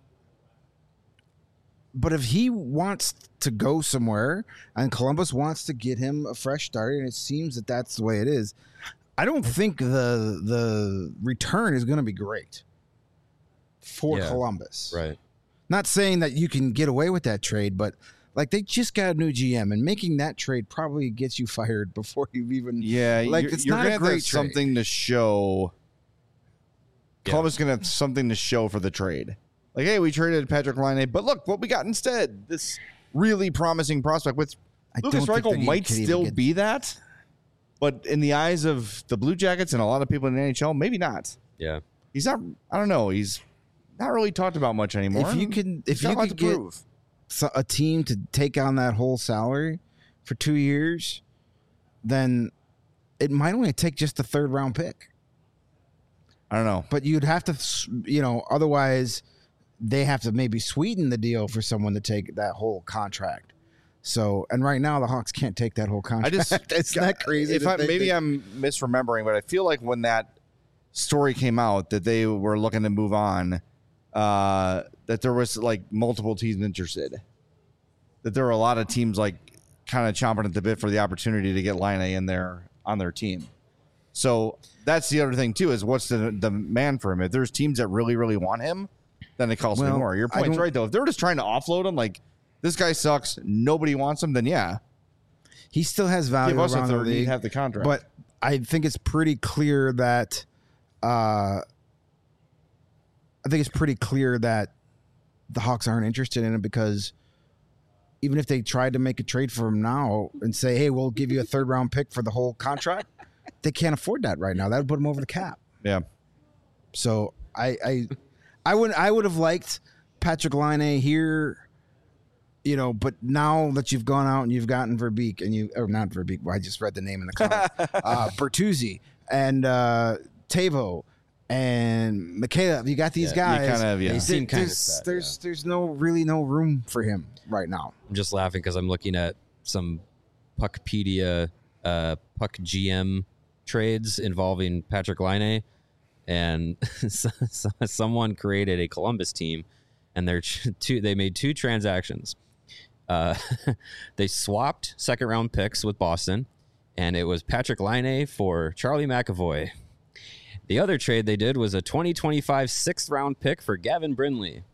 but if he wants to go somewhere, and Columbus wants to get him a fresh start, and it seems that that's the way it is, I don't think the the return is going to be great for Yeah. Columbus. Right. Not saying that you can get away with that trade, but like they just got a new G M, and making that trade probably gets you fired before you've even. Yeah. Like, you're, it's you're not gonna a have to great have trade. something to show. Yeah. Columbus is going to have something to show for the trade. Like, hey, we traded Patrick Laine, but look what we got instead. This really promising prospect with I Lucas don't think Reichel that he might could even still get- be that. But in the eyes of the Blue Jackets and a lot of people in the N H L, maybe not. Yeah. He's not, I don't know. He's not really talked about much anymore. If you can, if He's got you a lot could to get prove. so- a team to take on that whole salary for two years, then it might only take just a third round pick. I don't know. But you'd have to, you know, otherwise they have to maybe sweeten the deal for someone to take that whole contract. So, and right now the Hawks can't take that whole contract. I just it's not crazy. If I, maybe I'm misremembering, but I feel like when that story came out that they were looking to move on, uh, that there was like multiple teams interested. That there were a lot of teams like kind of chomping at the bit for the opportunity to get Line in there on their team. So that's the other thing too, is what's the the man for him? If there's teams that really, really want him, then it costs Well, me more. Your I point's don't- right though. If they're just trying to offload him, like this guy sucks, nobody wants him, then yeah, he still has value give us a around the third, he'd league. have the contract. But I think it's pretty clear that uh, I think it's pretty clear that the Hawks aren't interested in it because even if they tried to make a trade for him now and say, hey, we'll give you a third round pick for the whole contract, they can't afford that right now. That would put them over the cap. yeah, So I I I would I would have liked Patrick Laine here, you know, but now that you've gone out and you've gotten Verbeek and you or not Verbeek, well, I just read the name in the comments, uh, Bertuzzi and uh, Tavo and Michaela, you got these Yeah, you guys. kind of yeah. They seem kind of there's set. there's, there's no really no room for him right now. I'm just laughing because I'm looking at some Puckpedia, uh, Puck G M trades involving Patrick Laine, and so, so- someone created a Columbus team, and they're ch- two. They made two transactions. Uh, they swapped second round picks with Boston, and it was Patrick Laine for Charlie McAvoy. The other trade they did was a twenty twenty-five sixth round pick for Gavin Brindley.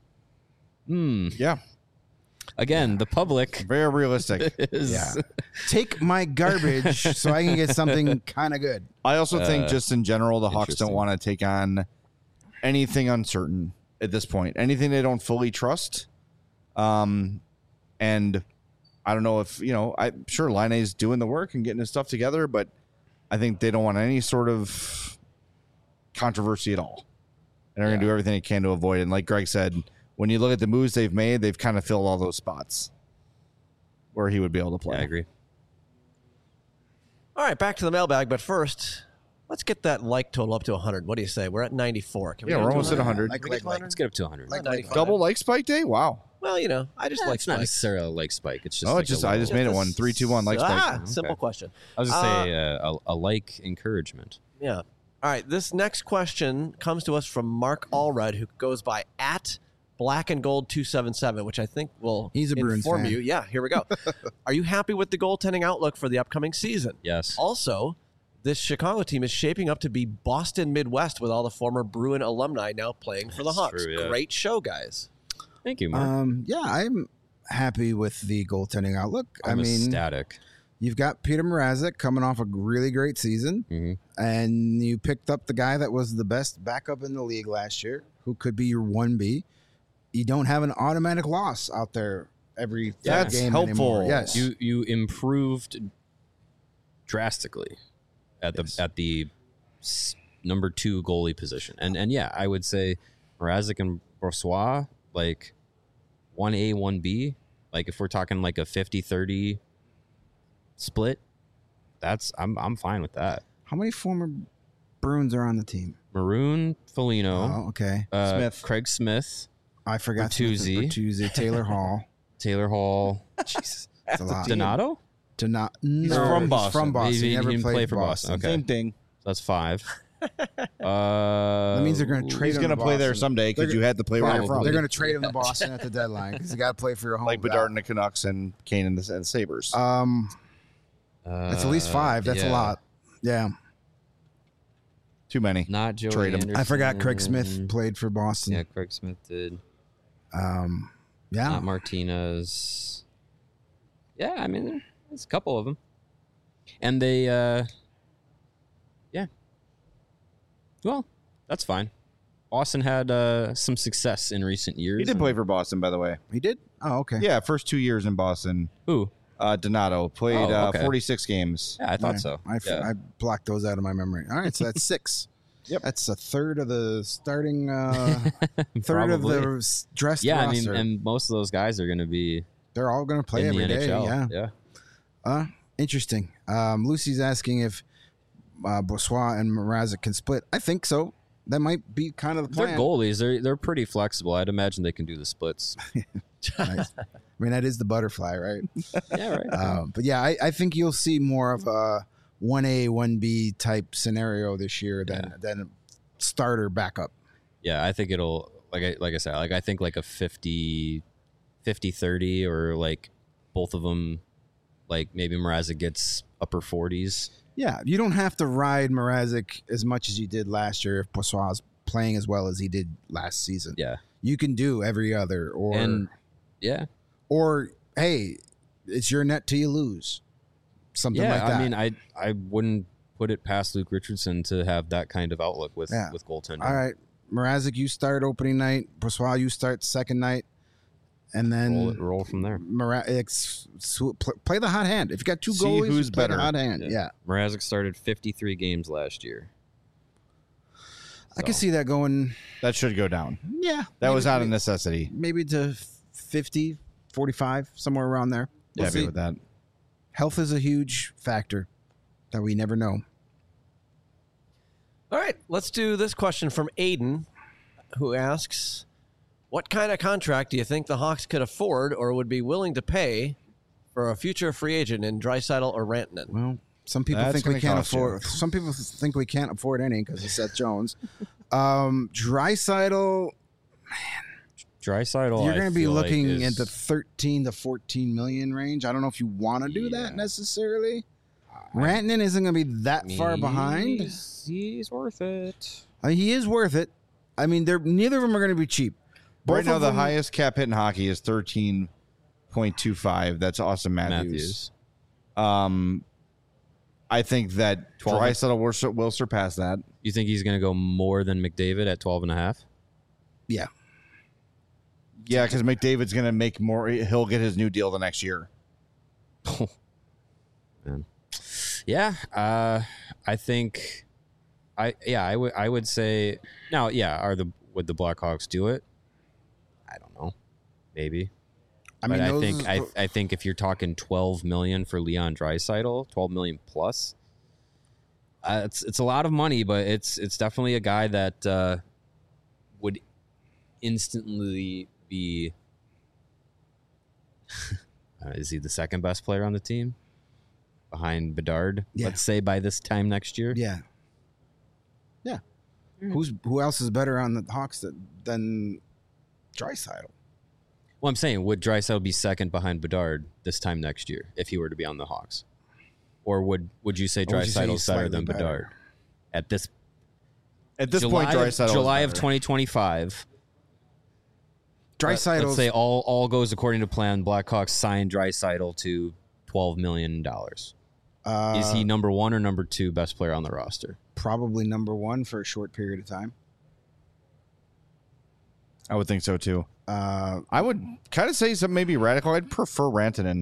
Hmm. yeah, Again, the public very realistic. is Yeah. Take my garbage so I can get something kind of good. I also think Uh, just in general, the Hawks don't interesting. want to take on anything uncertain at this point. Anything they don't fully trust. Um, and I don't know if, you know, I'm sure Laine's doing the work and getting his stuff together, but I think they don't want any sort of controversy at all. And they're going to Yeah. do everything they can to avoid it. And like Greg said, when you look at the moves they've made, they've kind of filled all those spots where he would be able to play. Yeah, I agree. All right, back to the mailbag. But first, let's get that like total up to one hundred. What do you say? We're at ninety-four. Can we Yeah, get we're to almost at one hundred. Can we get to Like, one Let's hundred? get up to one hundred. Like, ninety-five. Double like Spike Day? Wow. Well, you know, I just Yeah, like it's not Spike. necessarily a like spike. It's just Oh, like it's just a I little- just made it one. Three, two, one, like Spike. Ah, simple Okay. question. I was just say uh, a, a like encouragement. Yeah. All right. This next question comes to us from Mark Allred, who goes by at Black and Gold two seven seven, which I think will He's a Bruins inform fan. you. Yeah, here we go. Are you happy with the goaltending outlook for the upcoming season? Yes. Also, this Chicago team is shaping up to be Boston Midwest with all the former Bruin alumni now playing for the That's Hawks. true, yeah. Great show, guys. Thank you, Mark. Um, yeah, I'm happy with the goaltending outlook. I'm I mean, ecstatic. you've got Peter Mrazek coming off a really great season, hmm and you picked up the guy that was the best backup in the league last year, who could be your one B. You don't have an automatic loss out there every third That's game helpful. anymore. Yes, You you improved drastically at the Yes. at the s- number two goalie position, and and yeah, I would say Mrazek and Brossois like one A one B. Like if we're talking like a fifty thirty split, that's I'm I'm fine with that. How many former Bruins are on the team? Maroon, Foligno, Oh, okay. uh, Smith. Craig Smith, I forgot Bertuzzi. Bertuzzi, Taylor Hall. Taylor Hall, Jesus, that's a lot. Donato. To not, He's no, from Boston. From Boston. He- He, he never didn't played play for for Boston. Boston. Okay. Same thing. So that's five. Uh, That means they're going to trade He's him going to to play there Boston. someday because They're- you had to play where you're Probably. from. They're going to trade him to Boston at the deadline because you got to play for your home. like Bedard and the Canucks and Kane and the and Sabres. Um, uh, that's at least five. That's yeah. a lot. Yeah, Too many. Not Joey Trade him. Anderson. I forgot Craig Smith played for Boston. Yeah, Craig Smith did. Um, yeah. Not Martinez. Yeah, I mean, there's a couple of them. And they, uh, yeah. Well, that's fine. Boston had uh, some success in recent years. He did and- play for Boston, by the way. He did. Oh, okay. Yeah, first two years in Boston. Who? Uh, Donato played Oh, uh, okay. forty-six games. Yeah, I thought Okay. so. I, f- yeah. I blocked those out of my memory. All right, so that's six. Yep. That's a third of the starting. Uh, third of Probably. the s- dressed Yeah, I mean, roster. and most of those guys are going to be They're all going to play in every the day. N H L. Yeah. yeah. Uh, interesting. Um, Lucy's asking if uh, Brossois and Mrazek can split. I think so. That might be kind of the plan. They're goalies. They're they're pretty flexible. I'd imagine they can do the splits. Nice. I mean, that is the butterfly, right? Yeah, right. Um, but yeah, I, I think you'll see more of a one A, one B type scenario this year than Yeah. than starter backup. Yeah, I think it'll like I like I said, like I think like a fifty thirty or like both of them, like maybe Mrazek gets upper forties. Yeah, you don't have to ride Mrazek as much as you did last year if Brossoit is playing as well as he did last season. Yeah. You can do every other or And yeah. or hey, it's your net till you lose. Something Yeah, like that. I mean I I wouldn't put it past Luke Richardson to have that kind of outlook with Yeah. with goaltending. All right, Mrazek, you start opening night. Brossoit, you start second night, and then Roll, it- roll from there. Mrazek, play the hot hand. If you got two See goalies, who's play better. the hot hand. Yeah, Yeah. Mrazek started fifty-three games last year. I can So, see that going. That should go down. Yeah, That maybe- was not a necessity. maybe to fifty, forty-five, somewhere around there. We'll Happy see. with that. Health is a huge factor that we never know. All right, let's do this question from Aiden, who asks, what kind of contract do you think the Hawks could afford or would be willing to pay for a future free agent in Draisaitl or Rantanen? Well, some people That's think we gonna can't cost you. afford. Some people think we can't afford any because of Seth Jones. um, Draisaitl, Draisaitl, you're I going to be feel like, looking is- at the thirteen to fourteen million range. I don't know if you want to do Yeah. that necessarily. Rantanen isn't going to be that far behind. He's, he's worth it. I mean, he is worth it. I mean, they're neither of them are going to be cheap. Both right now, of the them- highest cap hit in hockey is thirteen point two five. That's Austin Matthews. Matthews. Um, I think that twelve. Draisaitl will, sur- will surpass that. You think he's going to go more than McDavid at twelve and a half? Yeah, Yeah, because McDavid's going to make more. He'll get his new deal the next year. Man. Yeah, uh, I think, I yeah, I would I would say now. Yeah, are the would the Blackhawks do it? I don't know, maybe. I But mean, I those- think I I think if you're talking twelve million for Leon Draisaitl, twelve million plus, uh, it's it's a lot of money, but it's it's definitely a guy that uh, would instantly be. uh, is he the second best player on the team? Behind Bedard, Yeah. let's say by this time next year. yeah, yeah. Who's who else is better on the Hawks than, than Draisaitl? Well, I'm saying, would Draisaitl be second behind Bedard this time next year if he were to be on the Hawks? Or would would you say Or would you say Draisaitl's he's better slightly than better? Bedard? At this, At this July, point, Draisaitl of, is July of better. twenty twenty-five, Draisaitl. let's say all, all goes according to plan, Blackhawks sign Draisaitl to twelve million dollars. uh, Is he number one or number two best player on the roster? probably number one for a short period of time? I would think so too. Uh, I would kind of say something maybe radical. I'd prefer Rantanen.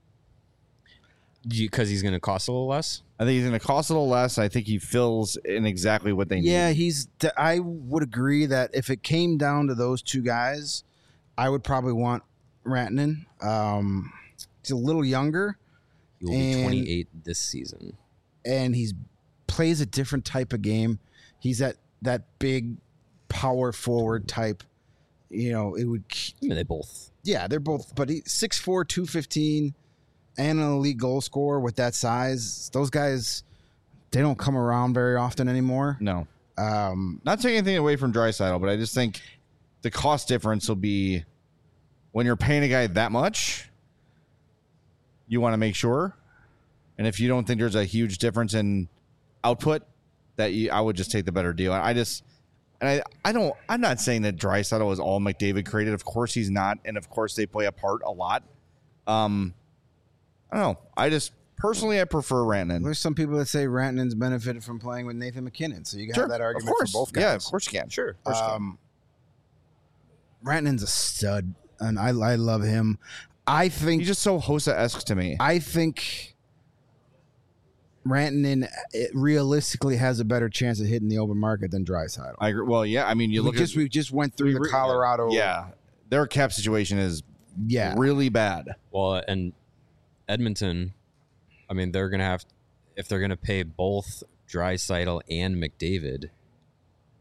Because he's going to cost a little less? I think he's going to cost a little less. I think he fills in exactly what they need. yeah, he's. d- I would agree that if it came down to those two guys, I would probably want Rantanen. Um, he's a little younger, He will be And- twenty-eight this season. and he's plays a different type of game. He's that that big power forward type. You know, it would. I mean, they both. Yeah, they're both. But he six four, two fifteen, and an elite goal scorer with that size. Those guys, they don't come around very often anymore. No. Um, Not taking anything away from Draisaitl, but I just think the cost difference will be when you're paying a guy that much, you want to make sure. And if you don't think there's a huge difference in output, that you, I would just take the better deal. I just, and I, I don't, I'm not saying that Draisaitl is all McDavid created. Of course he's not. And of course they play a part a lot. Um, I don't know. I just, personally, I prefer Rantanen. there's some people that say Rantanen's benefited from playing with Nathan McKinnon, so you can Sure, have that of argument course. for both guys. Yeah, of course you can. Sure. Of course you can. Um, Rantanen's a stud, and I I love him. I think He's just so Hossa-esque to me. I think Rantanen it realistically has a better chance of hitting the open market than Draisaitl. I agree. Well, yeah. I mean, you we look just at we just went through the re- Colorado. yeah, their cap situation is yeah. really bad. Well, and Edmonton, I mean, they're going to have, if they're going to pay both Draisaitl and McDavid,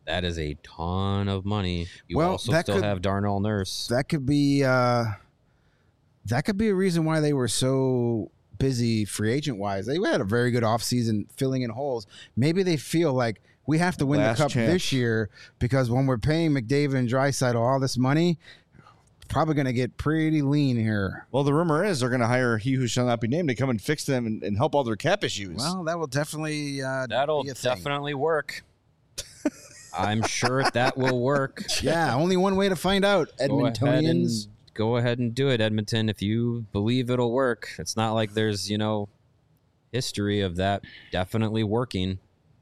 That is a ton of money. You Well, also that still could- have Darnell Nurse. That could be uh, that could be a reason why they were so busy free agent wise. They had a very good offseason filling in holes. Maybe they feel like we have to win Last the cup chance. this year because when we're paying McDavid and Draisaitl all this money, probably going to get pretty lean here. Well, the rumor is they're going to hire he who shall not be named to come and fix them and, and help all their cap issues. Well, that will definitely uh, That'll be a thing. definitely work. I'm sure that will work. Yeah, only one way to find out, Go ahead, and, Edmontonians. go ahead and do it, Edmonton. If you believe it'll work, it's not like there's, you know, history of that definitely working.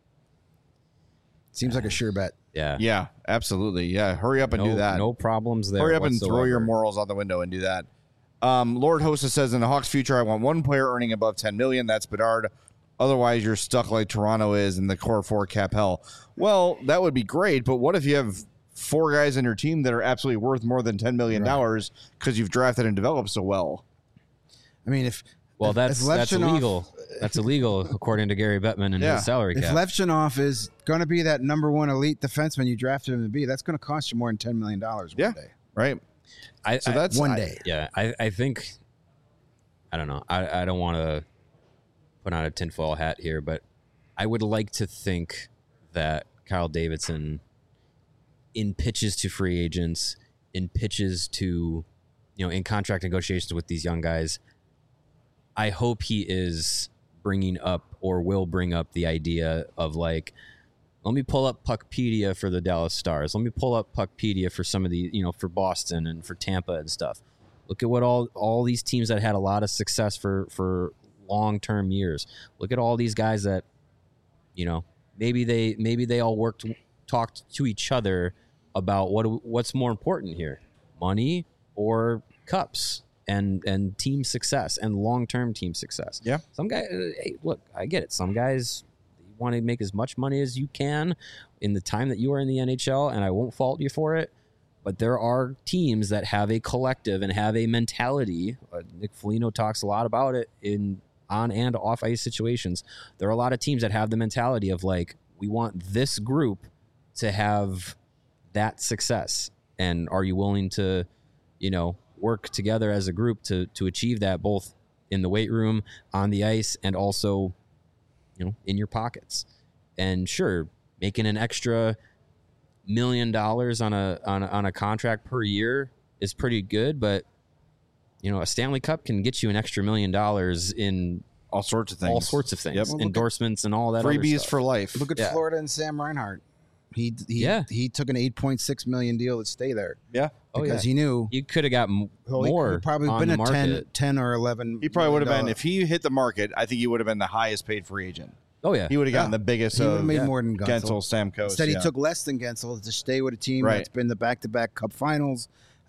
Seems like a sure bet. Yeah. yeah, absolutely. Yeah, hurry up and no, do that. No problems there. Hurry up and throw whatsoever. your morals out the window and do that. Um, Lord Hostess says in the Hawks' future, I want one player earning above ten million. That's Bedard. Otherwise, you're stuck like Toronto is in the core four cap hell. Well, that would be great, but what if you have four guys in your team that are absolutely worth more than ten million dollars because you've drafted and developed so well? I mean, if Well, if- that's if that's Levchinov- illegal. That's illegal according to Gary Bettman and Yeah. his salary If cap. Levchinov is going to be that number one elite defenseman you drafted him to be, that's going to cost you more than ten million dollars one Yeah. day. Right? I, So I- that's One I- day. yeah. I, I think I don't know. I, I don't want to put on a tinfoil hat here, but I would like to think that Kyle Davidson, in pitches to free agents, in pitches to, you know, in contract negotiations with these young guys, I hope he is bringing up or will bring up the idea of like, let me pull up Puckpedia for the Dallas Stars. Let me pull up Puckpedia for some of the, you know, for Boston and for Tampa and stuff. Look at what all all these teams that had a lot of success for for long-term years. Look at all these guys that, you know, maybe they maybe they all worked talked to each other about what what's more important here, money or cups and and team success and long-term team success. Yeah. Some guy, hey, look, I get it. Some guys want to make as much money as you can in the time that you are in the N H L, and I won't fault you for it. But there are teams that have a collective and have a mentality. Uh, Nick Foligno talks a lot about it in on and off ice situations. There are a lot of teams that have the mentality of like, we want this group to have that success. And are you willing to, you know, work together as a group to to achieve that, both in the weight room, on the ice, and also, you know, in your pockets? And sure, making an extra million dollars on a on a, on a contract per year is pretty good, but you know, a Stanley Cup can get you an extra million dollars in All sorts of things. all sorts of things, Yep. Well, look at- endorsements and all that. other Freebies stuff. for life. Look at Yeah. Florida and Sam Reinhart. He he Yeah. he took an eight point six million deal to stay there Yeah. Oh, because yeah. he knew You could have got m- well, he more could've probably on been the a ten, market. ten or eleven. He probably would have million been, if he hit the market, I think he would have been the highest paid free agent. Oh yeah, He would have gotten Yeah. the biggest He would have of made yeah. more than Gunsel. Gensel, Stamkos. Instead, yeah. he took less than Gensel to stay with a team Right. that's been the back-to-back Cup Finals,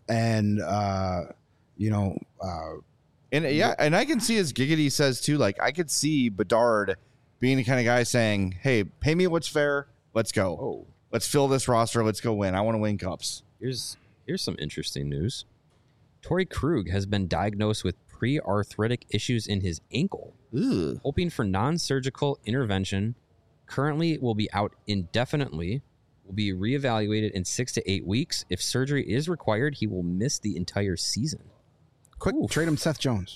and uh, you know, uh, And yeah, and I can see, as Giggity says too, like I could see Bedard being the kind of guy saying, "Hey, pay me what's fair. Let's go. Oh, Let's fill this roster. Let's go win. I want to win cups." here's here's some interesting news. Torrey Krug has been diagnosed with pre-arthritic issues in his ankle, Ugh. hoping for non-surgical intervention. Currently, will be out indefinitely. Will be reevaluated in six to eight weeks. If surgery is required, he will miss the entire season. quick Oof. trade him Seth Jones.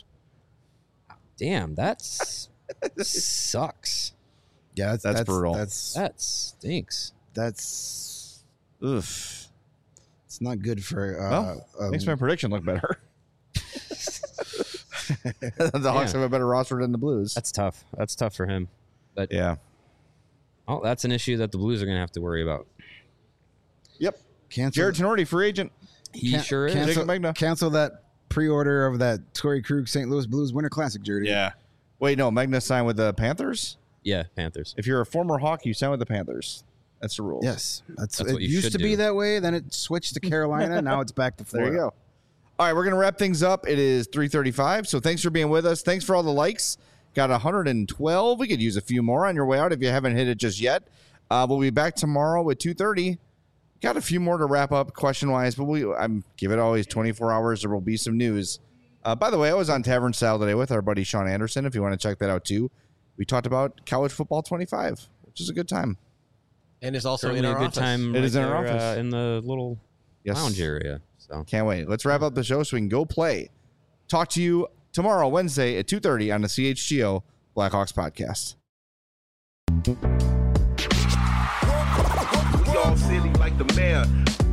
Damn, that's sucks. Yeah, that's, That's brutal. That's That stinks. that's Oof. it's not good for. Uh, Well, um, Makes my prediction look better. The Hawks Yeah. have a better roster than the Blues. That's tough. That's tough for him. But yeah. oh, that's an issue that the Blues are going to have to worry about. Yep. cancel. Jared Tenorti, free agent. He can- sure is. cancel, Jacob Magna. cancel that pre-order of that Torrey Krug Saint Louis Blues Winter Classic jersey. Yeah. Wait, no. Magna signed with the Panthers. Yeah, Panthers. If you're a former Hawk, you sign with the Panthers. That's the rules. Yes, that's, That's it. what you Used should to be do. that way. Then it switched to Carolina. Now it's back to There Florida. you go. All right, we're gonna wrap things up. It is three thirty-five. So thanks for being with us. Thanks for all the likes. Got one hundred twelve. We could use a few more on your way out if you haven't hit it just yet. Uh, we'll be back tomorrow at two thirty. Got a few more to wrap up question wise, but we I'm give it always twenty-four hours. There will be some news. Uh, by the way, I was on Tavern Style today with our buddy Sean Anderson. If you want to check that out too, we talked about college football twenty-five, which is a good time. And is also Certainly in a our good office. time. It right is in our there, office. uh, in the little Yes. lounge area. So Can't wait. Let's wrap up the show so we can go play. Talk to you tomorrow, Wednesday at two thirty on the C H G O Blackhawks podcast. We all silly like the mayor.